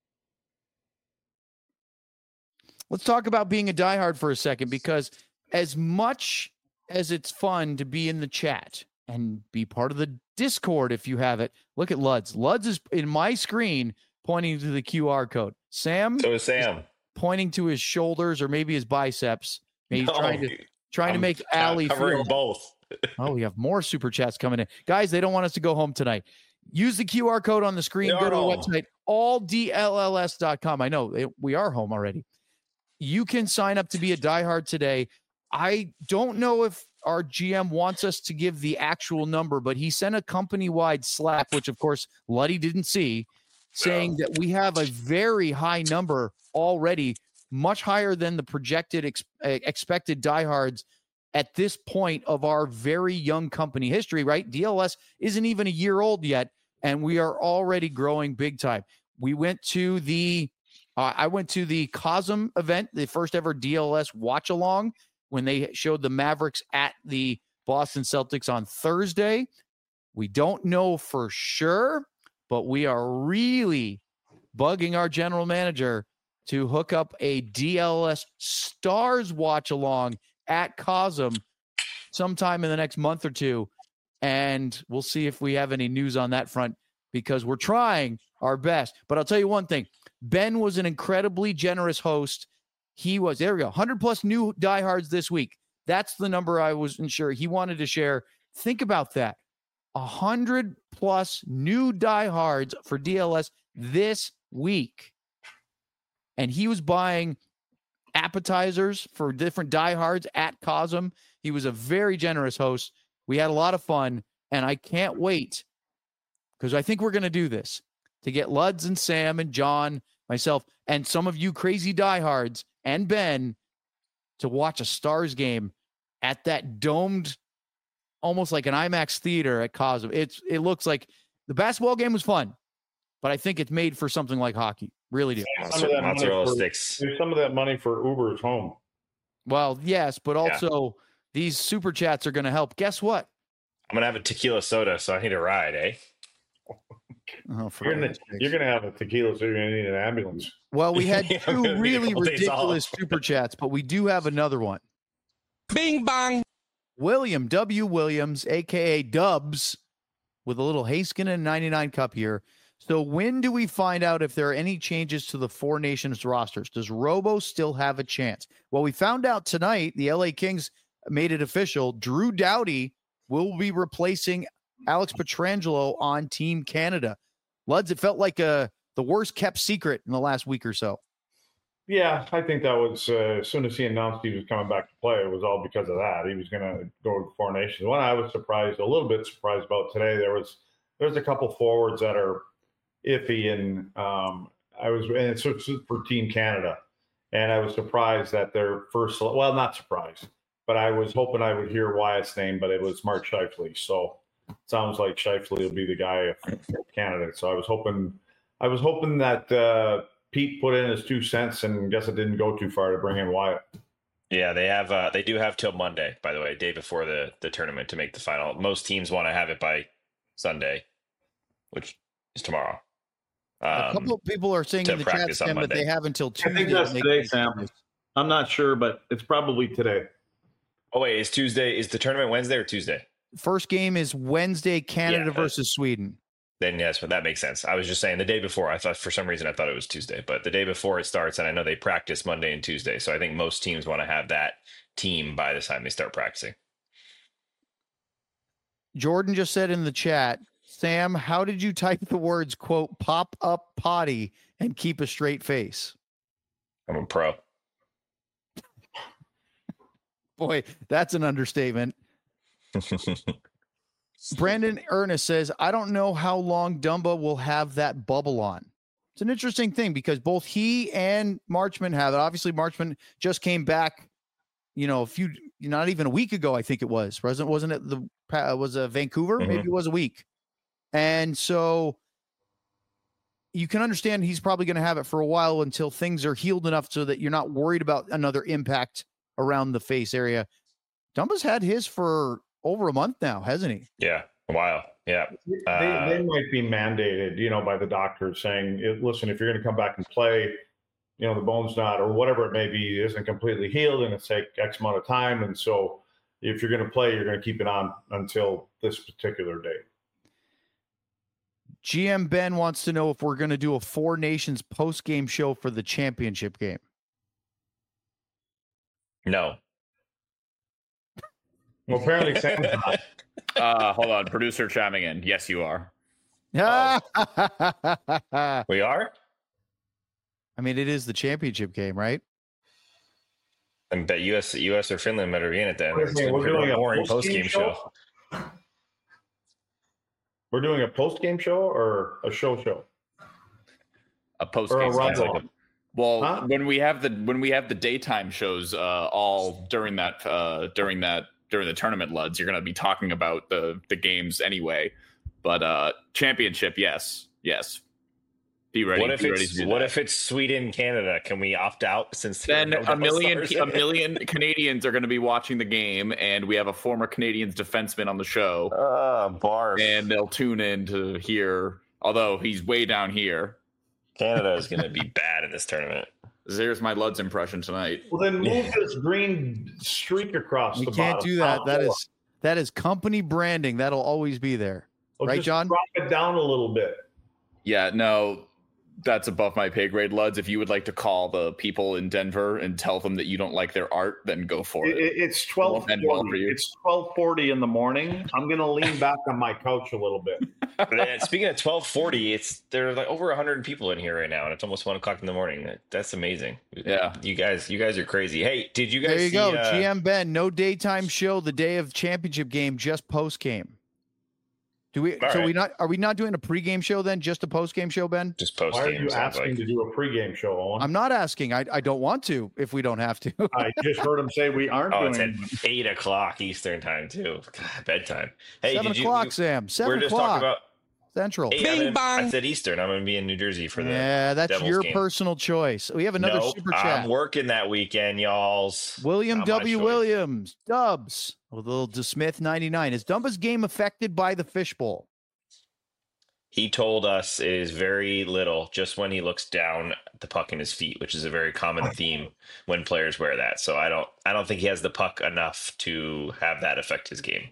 Let's talk about being a diehard for a second, because as much as it's fun to be in the chat and be part of the Discord if you have it, look at Luds. Luds is in my screen pointing to the QR code. Sam? So is Sam. Pointing to his shoulders or maybe his biceps. Maybe he's trying to make Allie covering feel both. Oh, we have more super chats coming in. Guys, they don't want us to go home tonight. Use the QR code on the screen. Go to the website, alldlls.com. I know we are home already. You can sign up to be a diehard today. I don't know if our GM wants us to give the actual number, but he sent a company-wide Slack, which, of course, Luddy didn't see, saying that we have a very high number already, much higher than the projected expected diehards at this point of our very young company history, right? DLS isn't even a year old yet, and we are already growing big time. We went to the I went to the COSM event, the first ever DLS watch along, when they showed the Mavericks at the Boston Celtics on Thursday. We don't know for sure, but we are really bugging our general manager to hook up a DLS Stars watch along at COSM sometime in the next month or two. And we'll see if we have any news on that front, because we're trying our best. But I'll tell you one thing. Ben was an incredibly generous host. He was, there we go, 100 plus new diehards this week. That's the number I wasn't sure he wanted to share. Think about that. 100 plus new diehards for DLS this week. And he was buying appetizers for different diehards at COSM. He was a very generous host. We had a lot of fun, and I can't wait, because I think we're going to do this, to get Luds and Sam and John, myself, and some of you crazy diehards and Ben to watch a Stars game at that domed, almost like an IMAX theater at COSM. It looks like the basketball game was fun, but I think it's made for something like hockey. Really do. Mozzarella sticks. There's some of that money for Uber's home. Well, yes, but also these super chats are going to help. Guess what? I'm going to have a tequila soda, so I need a ride, eh? Oh, you're gonna have a tequila, so you're gonna need an ambulance. Well, we had two really ridiculous super chats, but we do have another one. Bing bang. William W. Williams, aka Dubs, with a little Haskinen 99 cup here. So when do we find out if there are any changes to the Four Nations rosters? Does Robo still have a chance? Well, we found out tonight the LA Kings made it official. Drew Doughty will be replacing Alex Pietrangelo on Team Canada. Luds, it felt like the worst kept secret in the last week or so. Yeah, I think that was as soon as he announced he was coming back to play, it was all because of that. He was going to go to Four Nations. One I was a little bit surprised about today, there's a couple forwards that are iffy, and it's for Team Canada, and I was surprised that their first, well, not surprised, but I was hoping I would hear Wyatt's name, but it was Mark Scheifele. So it sounds like Scheifele will be the guy for Canada. So I was hoping that Pete put in his 2 cents, and guess it didn't go too far to bring in Wyatt. Yeah, they do have till Monday, by the way, day before the tournament, to make the final. Most teams want to have it by Sunday, which is tomorrow. A couple of people are saying in the chat, Sam, that they have until Tuesday. I think that's today, Sam. I'm not sure, but it's probably today. Oh, wait, is the tournament Wednesday or Tuesday? First game is Wednesday, Canada versus Sweden. Then yes, that makes sense. I was just saying the day before. For some reason I thought it was Tuesday, but the day before it starts, and I know they practice Monday and Tuesday, so I think most teams want to have that team by the time they start practicing. Jordan just said in the chat, Sam, how did you type the words, quote, pop up potty and keep a straight face? I'm a pro. Boy, that's an understatement. Brandon Ernest says, I don't know how long Dumba will have that bubble on. It's an interesting thing because both he and Marchman have it. Obviously, Marchman just came back, not even a week ago, I think it was. Wasn't it Vancouver? Mm-hmm. Maybe it was a week. And so, you can understand he's probably going to have it for a while until things are healed enough so that you're not worried about another impact around the face area. Dumba's had his for over a month now, hasn't he? Yeah, a while. Yeah. They might be mandated, by the doctors saying, listen, if you're going to come back and play, the bone's not, or whatever it may be, isn't completely healed and it's take X amount of time. And so if you're going to play, you're going to keep it on until this particular date. GM Ben wants to know if we're going to do a Four Nations post-game show for the championship game. No. Well, apparently Sam's not. Hold on. Producer chiming in. Yes, you are. Oh. We are? I mean, it is the championship game, right? I bet US or Finland better be in it then. We're doing a boring post-game show. We're doing a post-game show or a show? A post-game show. Well, when we have the daytime shows all during the tournament, Luds, you're going to be talking about the games anyway. But championship, yes. Be ready. What if it's Sweden, Canada? Can we opt out since then a million Canadians are going to be watching the game, and we have a former Canadians defenseman on the show. Barf. And they'll tune in to hear, although he's way down here. Canada is going to be bad in this tournament. There's my Luds impression tonight. Well, then move this green streak across the bottom. We can't do that. That is company branding. That'll always be there. Right, just John? Drop it down a little bit. Yeah, no, that's above my pay grade, Luds. If you would like to call the people in Denver and tell them that you don't like their art, then go for it. It's 12:40. It's 12:40 in the morning. I'm going to lean back on my couch a little bit. Speaking of 12:40, there are like over 100 people in here right now, and it's almost 1:00 in the morning. That's amazing. Yeah, you guys are crazy. Hey, did you guys? There you see, go, GM Ben. No daytime show the day of championship game, just post game. Do we? All so right. Are we not doing a pregame show then? Just a postgame show, Ben? Just post game. Why are you asking to do a pregame show, Owen? I'm not asking. I don't want to. If we don't have to. I just heard him say we aren't. It's at 8:00 Eastern time too. God, bedtime. Hey, 7 o'clock, Sam. 7 We're just talking o'clock about Central. Hey, I said Eastern. I'm going to be in New Jersey for the. Yeah, that's Devils your game. Personal choice. We have another super chat. I'm working that weekend, y'alls. William W. Williams, Dubs, with a little DeSmith 99. Is Dumba's game affected by the fishbowl? He told us it is very little, just when he looks down at the puck in his feet, which is a very common theme when players wear that. So I don't think he has the puck enough to have that affect his game.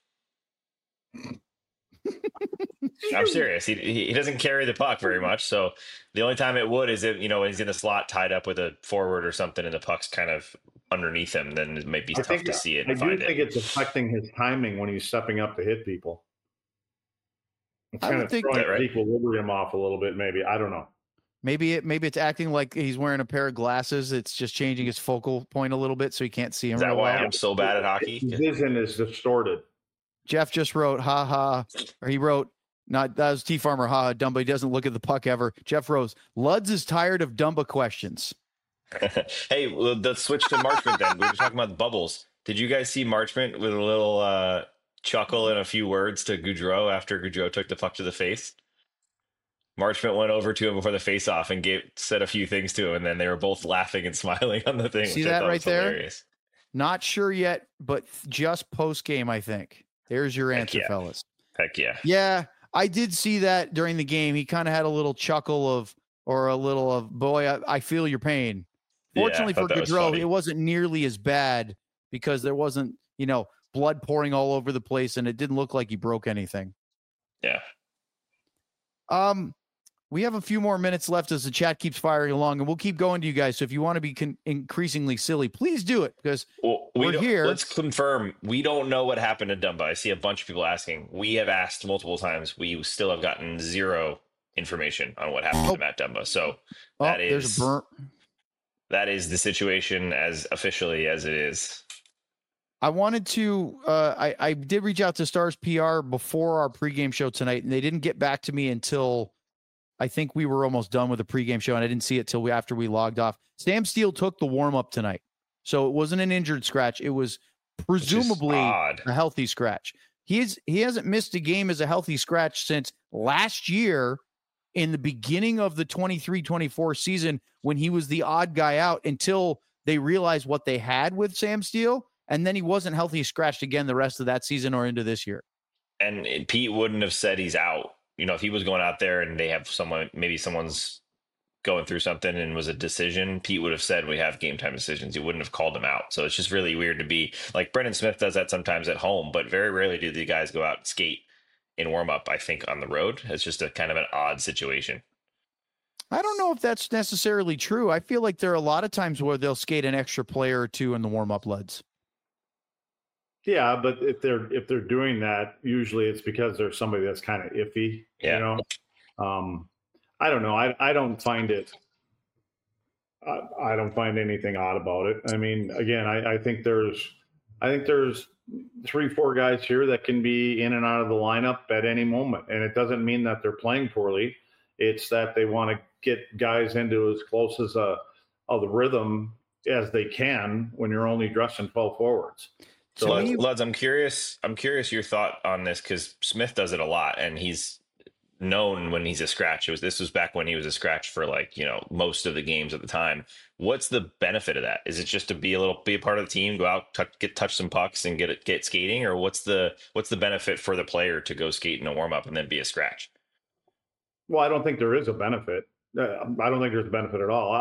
I'm serious. He doesn't carry the puck very much. So the only time it would is if, when he's in the slot tied up with a forward or something and the puck's kind of underneath him, then it might be tough to see it. I do think it's affecting his timing when he's stepping up to hit people. It's kind of throwing equilibrium off a little bit, maybe. I don't know. Maybe it's acting like he's wearing a pair of glasses. It's just changing his focal point a little bit so he can't see him. Is that why I'm so bad at hockey? His vision is distorted. Jeff just wrote, ha ha, or he wrote, that was T Farmer, ha, Dumba. He doesn't look at the puck ever. Jeff Rose, Luds is tired of Dumba questions. Hey, let's switch to Marchment then. We were talking about the bubbles. Did you guys see Marchment with a little chuckle and a few words to Gaudreau after Gaudreau took the puck to the face? Marchment went over to him before the face-off and said a few things to him, and then they were both laughing and smiling on the thing. See that right there? Hilarious. Not sure yet, but just post-game, I think. There's your answer, fellas. Heck yeah. Yeah, I did see that during the game. He kind of had a little chuckle boy, I feel your pain. Fortunately for Gaudreau, it wasn't nearly as bad because there wasn't, blood pouring all over the place, and it didn't look like he broke anything. Yeah. We have a few more minutes left as the chat keeps firing along, and we'll keep going to you guys. So if you want to be increasingly silly, please do it because we're here. Let's confirm. We don't know what happened to Dumba. I see a bunch of people asking. We have asked multiple times. We still have gotten zero information on what happened to Matt Dumba. So there's a burn. That is the situation as officially as it is. I wanted to, I did reach out to Stars PR before our pregame show tonight, and they didn't get back to me until I think we were almost done with the pregame show, and I didn't see it till after we logged off. Sam Steele took the warm-up tonight, so it wasn't an injured scratch. It was presumably a healthy scratch. He hasn't missed a game as a healthy scratch since last year in the beginning of the 23-24 season when he was the odd guy out until they realized what they had with Sam Steele. And then he wasn't healthy, scratched again the rest of that season or into this year. And Pete wouldn't have said he's out. You know, if he was going out there and they have someone, maybe someone's going through something and was a decision, Pete would have said we have game time decisions. He wouldn't have called him out. So it's just really weird to be like Brendan Smith does that sometimes at home, but very rarely do the guys go out and skate in warm up, I think, on the road. It's just a kind of an odd situation. I don't know if that's necessarily true. I feel like there are a lot of times where they'll skate an extra player or two in the warm up LUDs. Yeah, but if they're doing that, usually it's because there's somebody that's kind of iffy. Yeah. You know, I don't know. I don't find it. I don't find anything odd about it. I mean, again, I think there's 3-4 guys here that can be in and out of the lineup at any moment, and it doesn't mean that they're playing poorly. It's that they want to get guys into as close as the rhythm as they can when you're only dressing 12 forwards. So Luds, I'm curious your thought on this, because Smith does it a lot, and he's known when he's a scratch. This was back when he was a scratch for most of the games at the time. What's the benefit of that? Is it just to be a part of the team, go out, touch some pucks and get skating, or what's the benefit for the player to go skate in a warm up and then be a scratch? Well, I don't think there is a benefit. I don't think there's a benefit at all.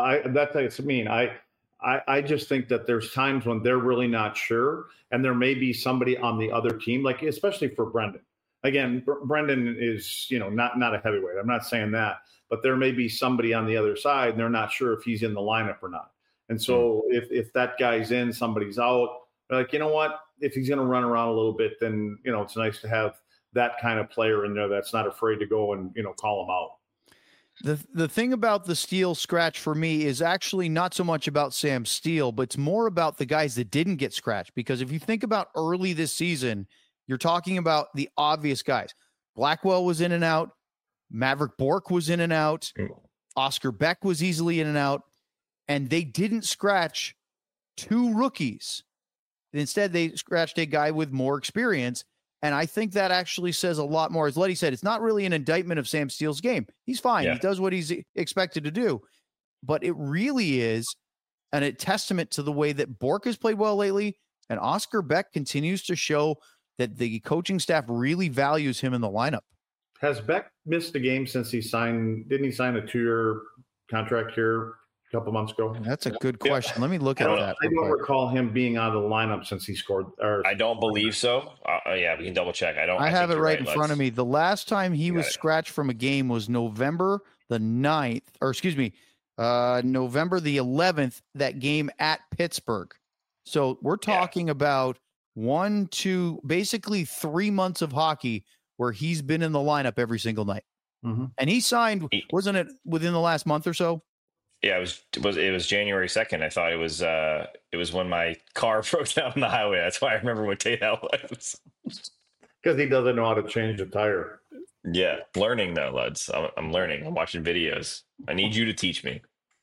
I just think that there's times when they're really not sure, and there may be somebody on the other team, like especially for Brendan. Again, Brendan is, not a heavyweight. I'm not saying that, but there may be somebody on the other side, and they're not sure if he's in the lineup or not. And so if that guy's in, somebody's out, they're like, you know what? If he's going to run around a little bit, then, it's nice to have that kind of player in there that's not afraid to go and, call him out. The thing about the Steele scratch for me is actually not so much about Sam Steele, but it's more about the guys that didn't get scratched. Because if you think about early this season, you're talking about the obvious guys. Blackwell was in and out. Maverick Bourque was in and out. Oscar Beck was easily in and out. And they didn't scratch 2 rookies. Instead, they scratched a guy with more experience. And I think that actually says a lot more. As Letty said, it's not really an indictment of Sam Steele's game. He's fine. Yeah. He does what he's expected to do. But it really is a testament to the way that Bourque has played well lately. And Oscar Beck continues to show that the coaching staff really values him in the lineup. Has Beck missed a game since didn't he sign a 2-year contract here a couple months ago? That's a good question. Yeah. Let me look at that. I don't recall him being out of the lineup since he scored. I don't believe so. Yeah, we can double check. I have it right in front of me. The last time he was scratched from a game was November the 9th, or excuse me, November the 11th, that game at Pittsburgh. So we're talking about basically 3 months of hockey where he's been in the lineup every single night. Mm-hmm. And he signed, wasn't it within the last month or so? Yeah, it was January 2nd. I thought it was when my car broke down on the highway. That's why I remember what day that was. Because he doesn't know how to change a tire. Yeah, learning though, Luds. I'm learning. I'm watching videos. I need you to teach me.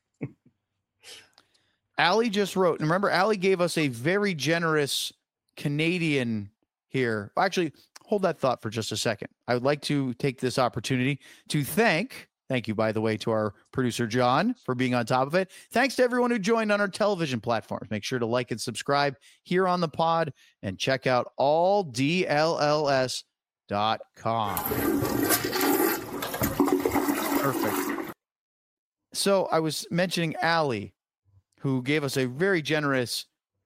Allie just wrote, and remember, Allie gave us a very generous Canadian here. Actually, hold that thought for just a second. I would like to take this opportunity to thank you, by the way, to our producer, John, for being on top of it. Thanks to everyone who joined on our television platforms. Make sure to like and subscribe here on the pod and check out alldlls.com. Perfect. So I was mentioning Allie, who gave us a very generous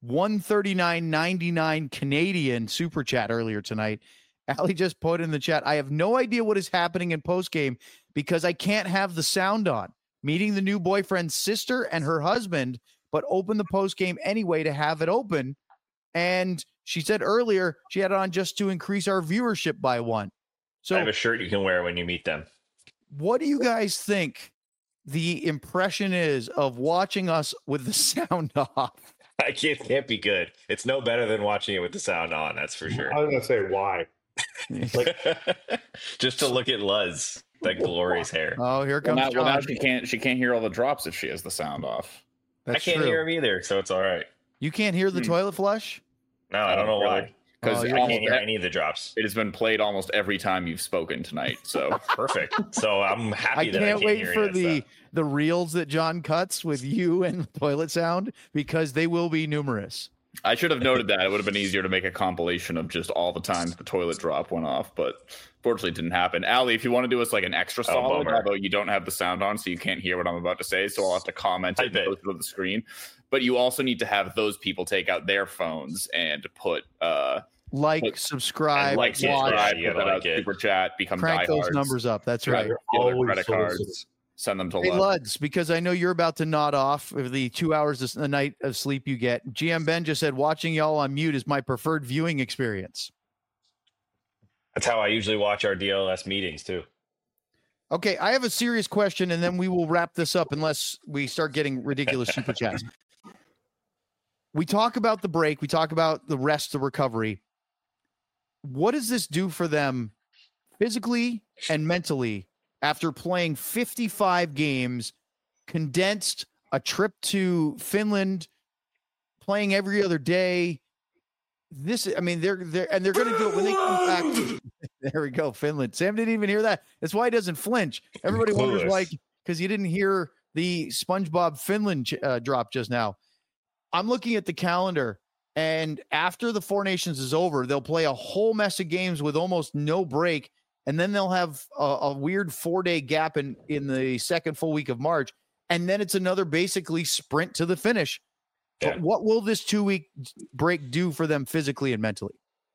$139.99 Canadian super chat earlier tonight. Allie just put in the chat, I have no idea what is happening in postgame because I can't have the sound on. Meeting the new boyfriend's sister and her husband, but open the postgame anyway to have it open. And she said earlier she had it on just to increase our viewership by 1. So I have a shirt you can wear when you meet them. What do you guys think the impression is of watching us with the sound off? I can't be good. It's no better than watching it with the sound on. That's for sure. I was gonna say why. Just to look at Luz, that glorious hair. Oh, here comes John. Well, now she can't hear all the drops if she has the sound off. That's I can't hear him either, so it's all right. You can't hear the toilet flush? No, I don't know why. because I can't hear any of the drops. It has been played almost every time you've spoken tonight. So perfect. So I'm happy that I can't wait hear for the reels that John cuts with you and toilet sound, because they will be numerous. I should have noted that. It would have been easier to make a compilation of just all the times the toilet drop went off, but fortunately it didn't happen. Ali, if you want to do us like an extra solid, although you don't have the sound on, so you can't hear what I'm about to say, so I'll have to comment it and post it on the screen. But you also need to have those people take out their phones and put subscribe, put that out, super chat, become crank diehards. those numbers up. That's right. Credit cards. Send them to Luds, because I know you're about to nod off of the 2 hours a night of sleep you get. GM Ben just said, watching y'all on mute is my preferred viewing experience. That's how I usually watch our DLS meetings too. Okay, I have a serious question, and then we will wrap this up unless we start getting ridiculous super chats. We talk about the break. We talk about the rest, the recovery. What does this do for them physically and mentally after playing 55 games, condensed, a trip to Finland, playing every other day? They're going to do it when they come back. There we go, Finland. Sam didn't even hear that. That's why he doesn't flinch. Everybody wonders why, because you didn't hear the SpongeBob Finland drop just now. I'm looking at the calendar, and after the Four Nations is over, they'll play a whole mess of games with almost no break, and then they'll have a weird 4-day gap in the second full week of March, and then it's another basically sprint to the finish. Yeah. But what will this 2-week break do for them physically and mentally?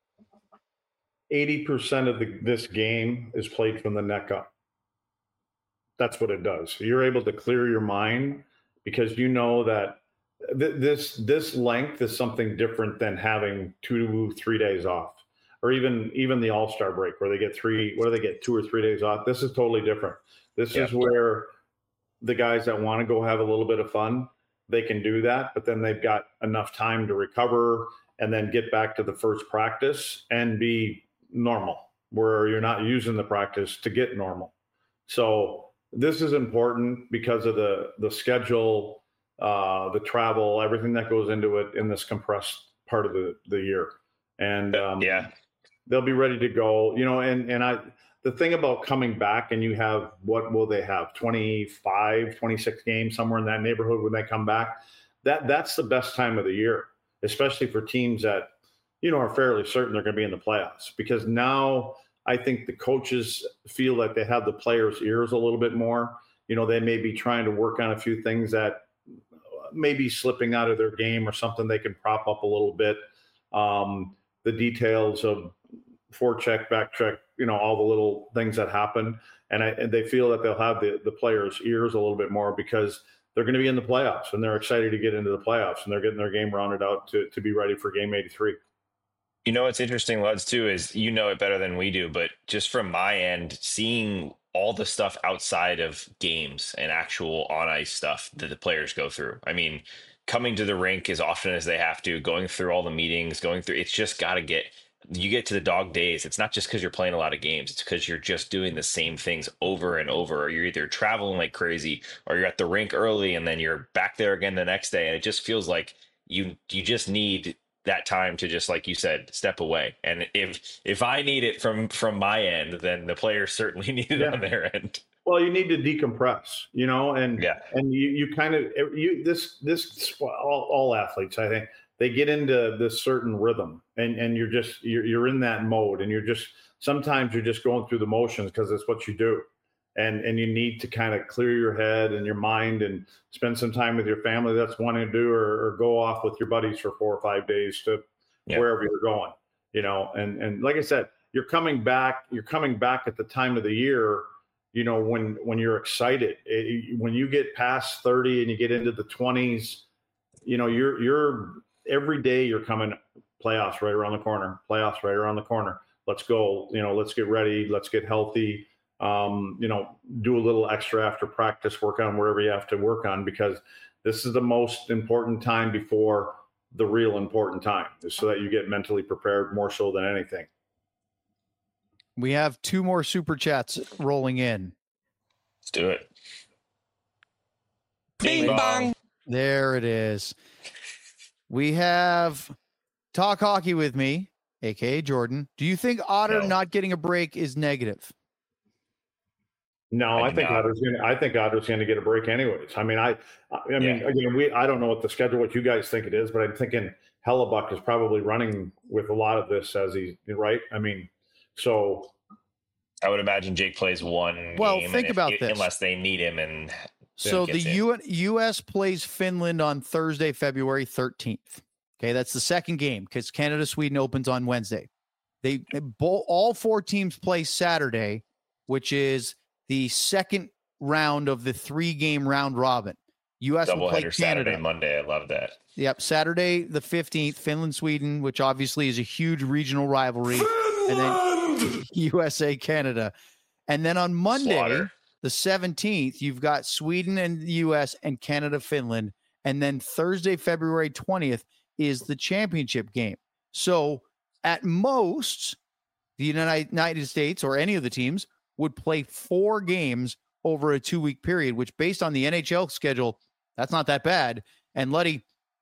80% of this game is played from the neck up. That's what it does. You're able to clear your mind because you know that this length is something different than having 2 to 3 days off, or even the All-Star break where they get 2 or 3 days off. This is totally different. This is where the guys that want to go have a little bit of fun, they can do that, but then they've got enough time to recover and then get back to the first practice and be normal, where you're not using the practice to get normal. So this is important because of the schedule, the travel, everything that goes into it in this compressed part of the year. And they'll be ready to go, the thing about coming back, and you have, what will they have? 25, 26 games, somewhere in that neighborhood when they come back. That's the best time of the year, especially for teams that, are fairly certain they're going to be in the playoffs, because now I think the coaches feel that they have the players' ears a little bit more. They may be trying to work on a few things that may be slipping out of their game or something they can prop up a little bit. The details of forecheck, back check, all the little things that happen. And they feel that they'll have the players' ears a little bit more because they're going to be in the playoffs and they're excited to get into the playoffs and they're getting their game rounded out to be ready for game 83. What's interesting, Luds, too, is it better than we do, but just from my end, seeing all the stuff outside of games and actual on-ice stuff that the players go through. I mean, coming to the rink as often as they have to, going through all the meetings, it's just got to you get to the dog days. It's not just because you're playing a lot of games. It's because you're just doing the same things over and over. Or you're either traveling like crazy or you're at the rink early and then you're back there again the next day. And it just feels like you just need that time to just, like you said, step away. And if I need it from my end, then the players certainly need it on their end. Well, you need to decompress, and you kind of, all athletes, I think, they get into this certain rhythm and you're in that mode, and sometimes you're just going through the motions because it's what you do. And you need to kind of clear your head and your mind and spend some time with your family that's wanting to do, or go off with your buddies for 4 or 5 days to wherever you're going, and like I said, you're coming back at the time of the year, when you're excited. When you get past 30 and you get into the 20s, you're every day you're coming, playoffs right around the corner. Let's go, let's get ready. Let's get healthy. Do a little extra after practice, work on wherever you have to work on, because this is the most important time before the real important time, so that you get mentally prepared more so than anything. We have 2 more super chats rolling in. Let's do it. Bing bong. There it is. We have Talk Hockey with Me, aka Jordan, do you think Otter not getting a break is negative? No, I think Otter's going to get a break anyways. I mean, I mean, again, I don't know what the schedule, what you guys think it is, but I'm thinking Hellebuck is probably running with a lot of this as he's right. I mean, so I would imagine Jake plays one. Well, game think about this. Unless they need him, and so the U.S. plays Finland on Thursday, February 13th. Okay, that's the second game because Canada-Sweden opens on Wednesday. All 4 teams play Saturday, which is the second round of the 3-game round robin. U.S. will play Canada. Saturday, Monday. I love that. Yep, Saturday the 15th, Finland, Sweden, which obviously is a huge regional rivalry, and then USA, Canada. And then on Monday, the 17th, you've got Sweden and the U.S. and Canada, Finland. And then Thursday, February 20th is the championship game. So at most, the United States or any of the teams would play 4 games over a 2-week period, which based on the NHL schedule, that's not that bad. And Luddy,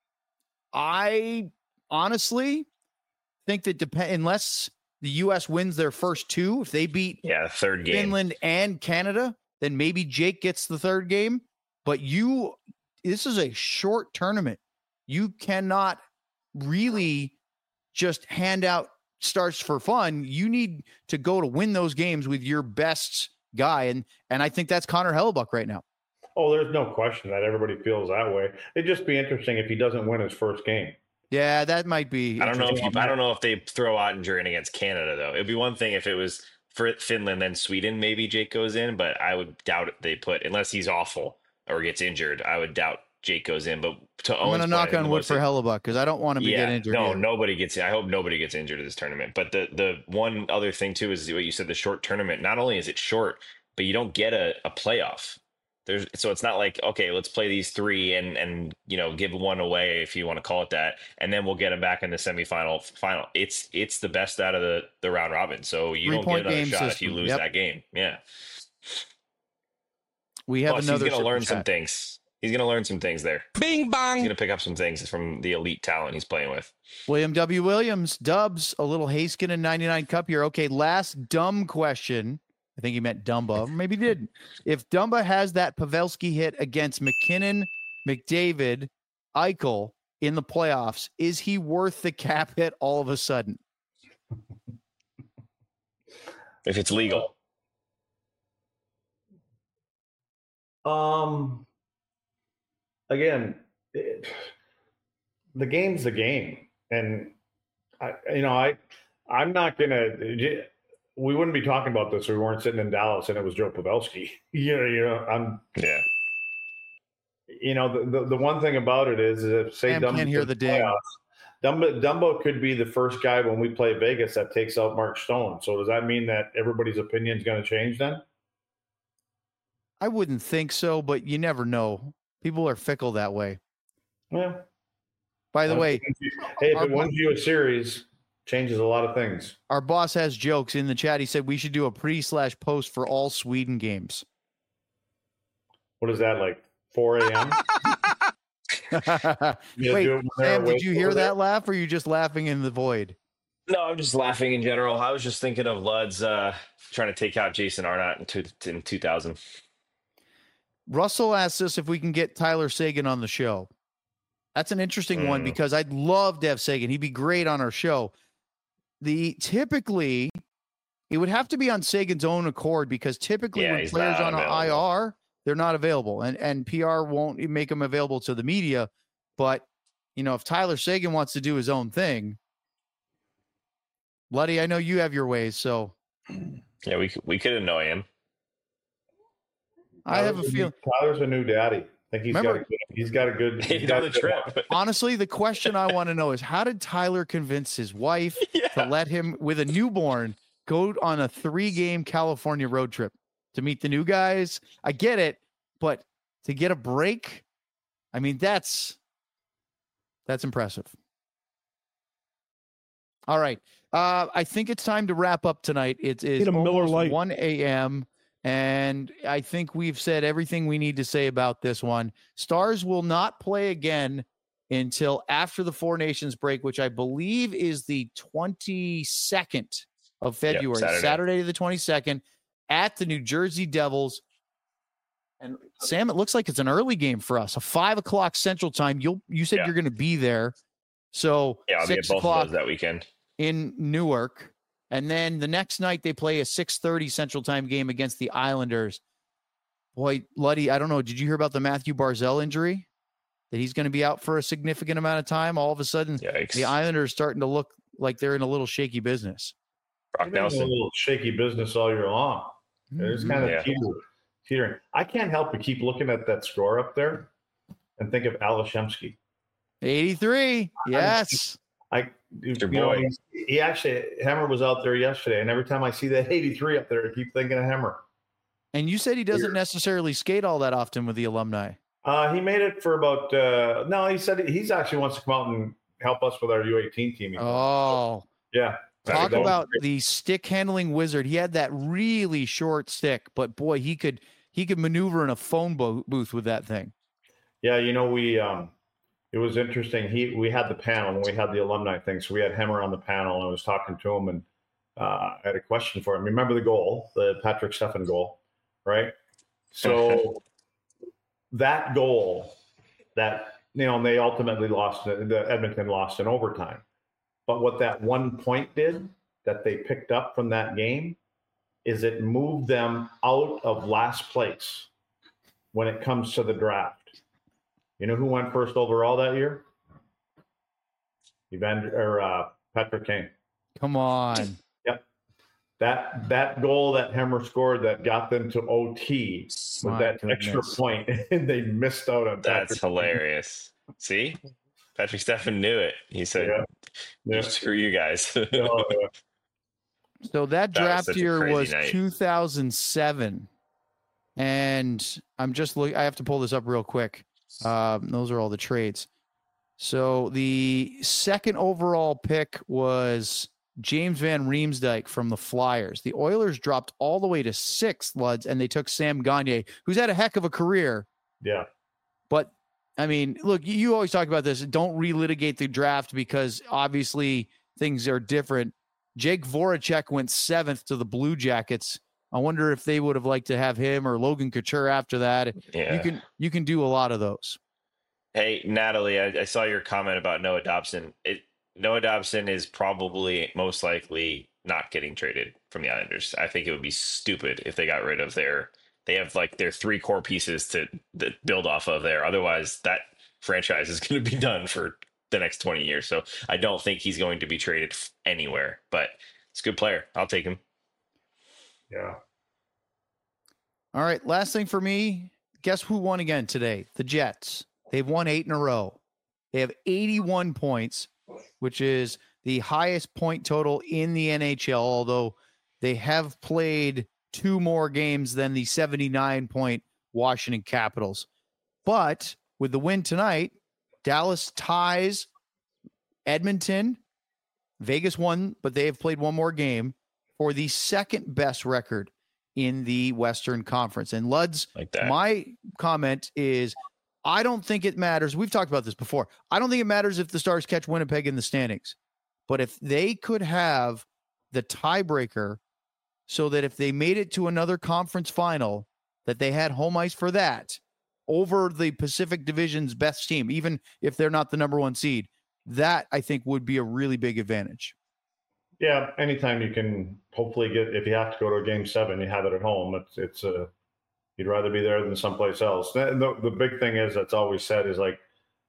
I honestly think that unless the U.S. wins their first 2, if they beat third game Finland and Canada, then maybe Jake gets the 3rd game. But this is a short tournament. You cannot really just hand out starts for fun. You need to go to win those games with your best guy. And I think that's Connor Hellebuck right now. Oh, there's no question that everybody feels that way. It'd just be interesting if he doesn't win his first game. Yeah, that might be. I don't know if they throw Ottinger in against Canada though. It'd be one thing if it was for Finland then Sweden. Maybe Jake goes in, but I would doubt it. They put unless he's awful or gets injured. I would doubt Jake goes in. But I'm going to knock on wood for Hellebuck because I don't want him to get injured. No, nobody gets. I hope nobody gets injured in this tournament. But the one other thing too is what you said. The short tournament. Not only is it short, but you don't get a playoff. So it's not like, okay, let's play these 3 and give one away if you want to call it that, and then we'll get them back in the semifinal. It's the best out of the round robin. So you don't get another shot if you lose that game. Yeah. We have another. He's going to learn some things. He's going to learn some things there. Bing bong. He's going to pick up some things from the elite talent he's playing with. William W. Williams, Dubs, a little Haskin and 99 Cup here. Okay, last dumb question. I think he meant Dumba. Maybe he didn't. If Dumba has that Pavelski hit against McKinnon, McDavid, Eichel in the playoffs, is he worth the cap hit all of a sudden? If it's legal. Again, the game's the game. And, I'm not going to – we wouldn't be talking about this if we weren't sitting in Dallas and it was Joe Pavelski. The one thing about it is if say Dumbo can't hear the ding. Dumbo could be the first guy when we play Vegas that takes out Mark Stone. So does that mean that everybody's opinion is going to change then? I wouldn't think so, but you never know. People are fickle that way. Yeah. By the way, if it wins you a series, changes a lot of things. Our boss has jokes in the chat. He said we should do a pre/post for all Sweden games. What is that, like 4 a.m.? Wait, Sam, did you hear that laugh, or are you just laughing in the void? No, I'm just laughing in general. I was just thinking of Lud's trying to take out Jason Arnott in 2000. Russell asked us if we can get Tyler Seguin on the show. That's an interesting one because I'd love to have Seguin. He'd be great on our show. Typically, it would have to be on Sagan's own accord because typically when players on IR, they're not available, and PR won't make them available to the media. But if Tyler Seguin wants to do his own thing, Luddy, I know you have your ways, so yeah, we could annoy him. I have a feeling Tyler's a new daddy. I think he's got a good trip. Honestly, the question I want to know is how did Tyler convince his wife to let him, with a newborn, go on a 3-game California road trip to meet the new guys? I get it, but to get a break, I mean, that's impressive. All right. I think it's time to wrap up tonight. It is almost 1 a.m., and I think we've said everything we need to say about this one. Stars will not play again until after the Four Nations break, which I believe is the 22nd of February, Saturday the 22nd, at the New Jersey Devils. And Sam, it looks like it's an early game for us, a 5:00 Central Time. You said you're going to be there, so I'll be at both of those that weekend in Newark. And then the next night they play a 6:30 Central Time game against the Islanders. Boy, Luddy, I don't know. Did you hear about the Matthew Barzal injury? That he's going to be out for a significant amount of time. All of a sudden, the Islanders starting to look like they're in a little shaky business. Brock Nelson, a little shaky business all year long. It's kind of teetering. I can't help but keep looking at that score up there and think of Alashemsky. 83. Yes. He actually, Hemmer was out there yesterday, and every time I see that 83 up there, I keep thinking of Hemmer. And you said he doesn't necessarily skate all that often with the alumni. He made it for about no, he said he's actually wants to come out and help us with our U18 team. Yeah. Talk about the stick handling wizard. He had that really short stick, but boy, he could maneuver in a phone booth with that thing. Yeah, we it was interesting. We had the panel and we had the alumni thing, so we had Hemmer on the panel, and I was talking to him, and I had a question for him. Remember the goal, the Patrick Steffen goal, right? So that goal that they ultimately lost, the Edmonton lost in overtime. But what that 1 point did that they picked up from that game is it moved them out of last place when it comes to the draft. You know who went first overall that year? Patrick Kane. Come on. Yep. That goal that Hemmer scored that got them to OT with that extra point, and they missed out on that. That's hilarious. See? Patrick Steffen knew it. He said, screw you guys. So that draft year was 2007. And I'm just looking, I have to pull this up real quick. Those are all the trades. So the second overall pick was James Van Riemsdyk from the Flyers. The Oilers dropped all the way to 6th, Luds, and they took Sam Gagner, who's had a heck of a career. Yeah. But, I mean, look, you always talk about this. Don't relitigate the draft because obviously things are different. Jake Voracek went 7th to the Blue Jackets. I wonder if they would have liked to have him or Logan Couture after that. Yeah. You can do a lot of those. Hey, Natalie, I saw your comment about Noah Dobson. Noah Dobson is probably most likely not getting traded from the Islanders. I think it would be stupid if they got rid of they have like their 3 core pieces to build off of there. Otherwise, that franchise is going to be done for the next 20 years. So I don't think he's going to be traded anywhere, but it's a good player. I'll take him. Yeah. All right. Last thing for me. Guess who won again today? The Jets. They've won 8 in a row. They have 81 points, which is the highest point total in the NHL, although they have played 2 more games than the 79-point Washington Capitals. But with the win tonight, Dallas ties Edmonton. Vegas won, but they have played 1 more game for the second best record in the Western Conference. And Luds, my comment is, I don't think it matters. We've talked about this before. I don't think it matters if the Stars catch Winnipeg in the standings. But if they could have the tiebreaker so that if they made it to another conference final, that they had home ice for that over the Pacific Division's best team, even if they're not the number 1 seed, that I think would be a really big advantage. Yeah, anytime you can hopefully get, if you have to go to a game 7, you have it at home. It's you'd rather be there than someplace else. The big thing is that's always said is like,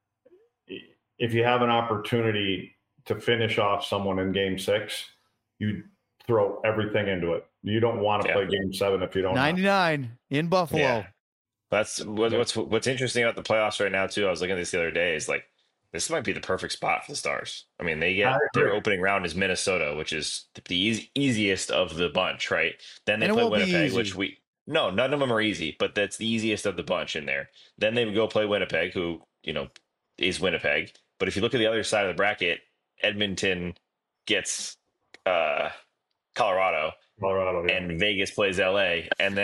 if you have an opportunity to finish off someone in game 6, you throw everything into it. You don't want to play game 7 if you don't. 99 in Buffalo. Yeah. That's what's interesting about the playoffs right now too. I was looking at this the other day. Is like, this might be the perfect spot for the Stars. I mean, they get their opening round is Minnesota, which is the easiest of the bunch, right? Then they play Winnipeg, which none of them are easy, but that's the easiest of the bunch in there. Then they would go play Winnipeg, who, is Winnipeg. But if you look at the other side of the bracket, Edmonton gets Colorado, yeah. And Vegas plays LA, and then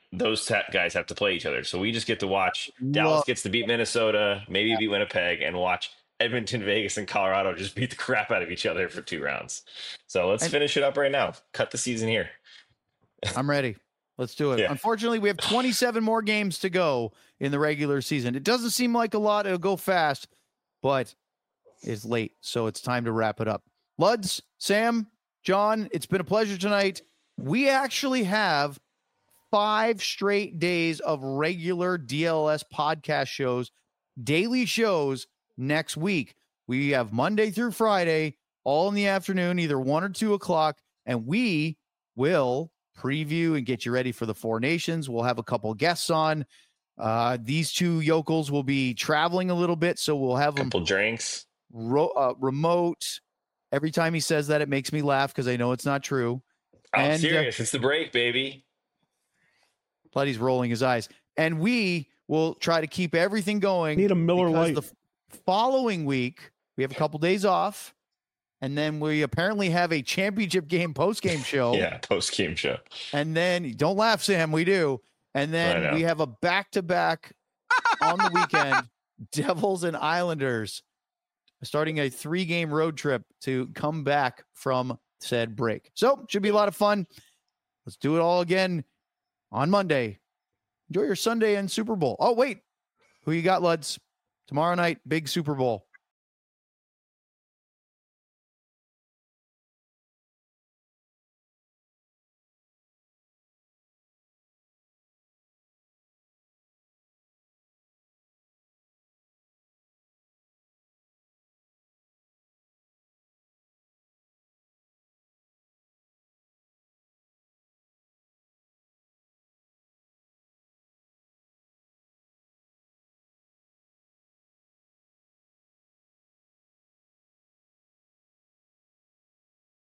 those guys have to play each other. So we just get to watch. Dallas gets to beat Minnesota, maybe beat Winnipeg, and watch Edmonton, Vegas, and Colorado just beat the crap out of each other for 2 rounds. So let's finish it up right now. Cut the season here. I'm ready. Let's do it. Yeah. Unfortunately, we have 27 more games to go in the regular season. It doesn't seem like a lot. It'll go fast, but it's late. So it's time to wrap it up. Luds, Sam, John, it's been a pleasure tonight. We actually have 5 straight days of regular DLS podcast shows, daily shows next week. We have Monday through Friday, all in the afternoon, either 1 or 2 o'clock, and we will preview and get you ready for the Four Nations. We'll have a couple guests on. These 2 yokels will be traveling a little bit, so we'll have them couple drinks remote. Every time he says that, it makes me laugh because I know it's not true. I'm serious. It's the break, baby. But he's rolling his eyes. And we will try to keep everything going. Need a Miller Lite. The following week, we have a couple days off. And then we apparently have a championship game post-game show. Yeah, post-game show. And then, don't laugh, Sam, we do. And then we have a back-to-back on the weekend, Devils and Islanders, starting a 3-game road trip to come back from said break. So, should be a lot of fun. Let's do it all again on Monday. Enjoy your Sunday and Super Bowl. Oh, wait. Who you got, Luds? Tomorrow night, big Super Bowl.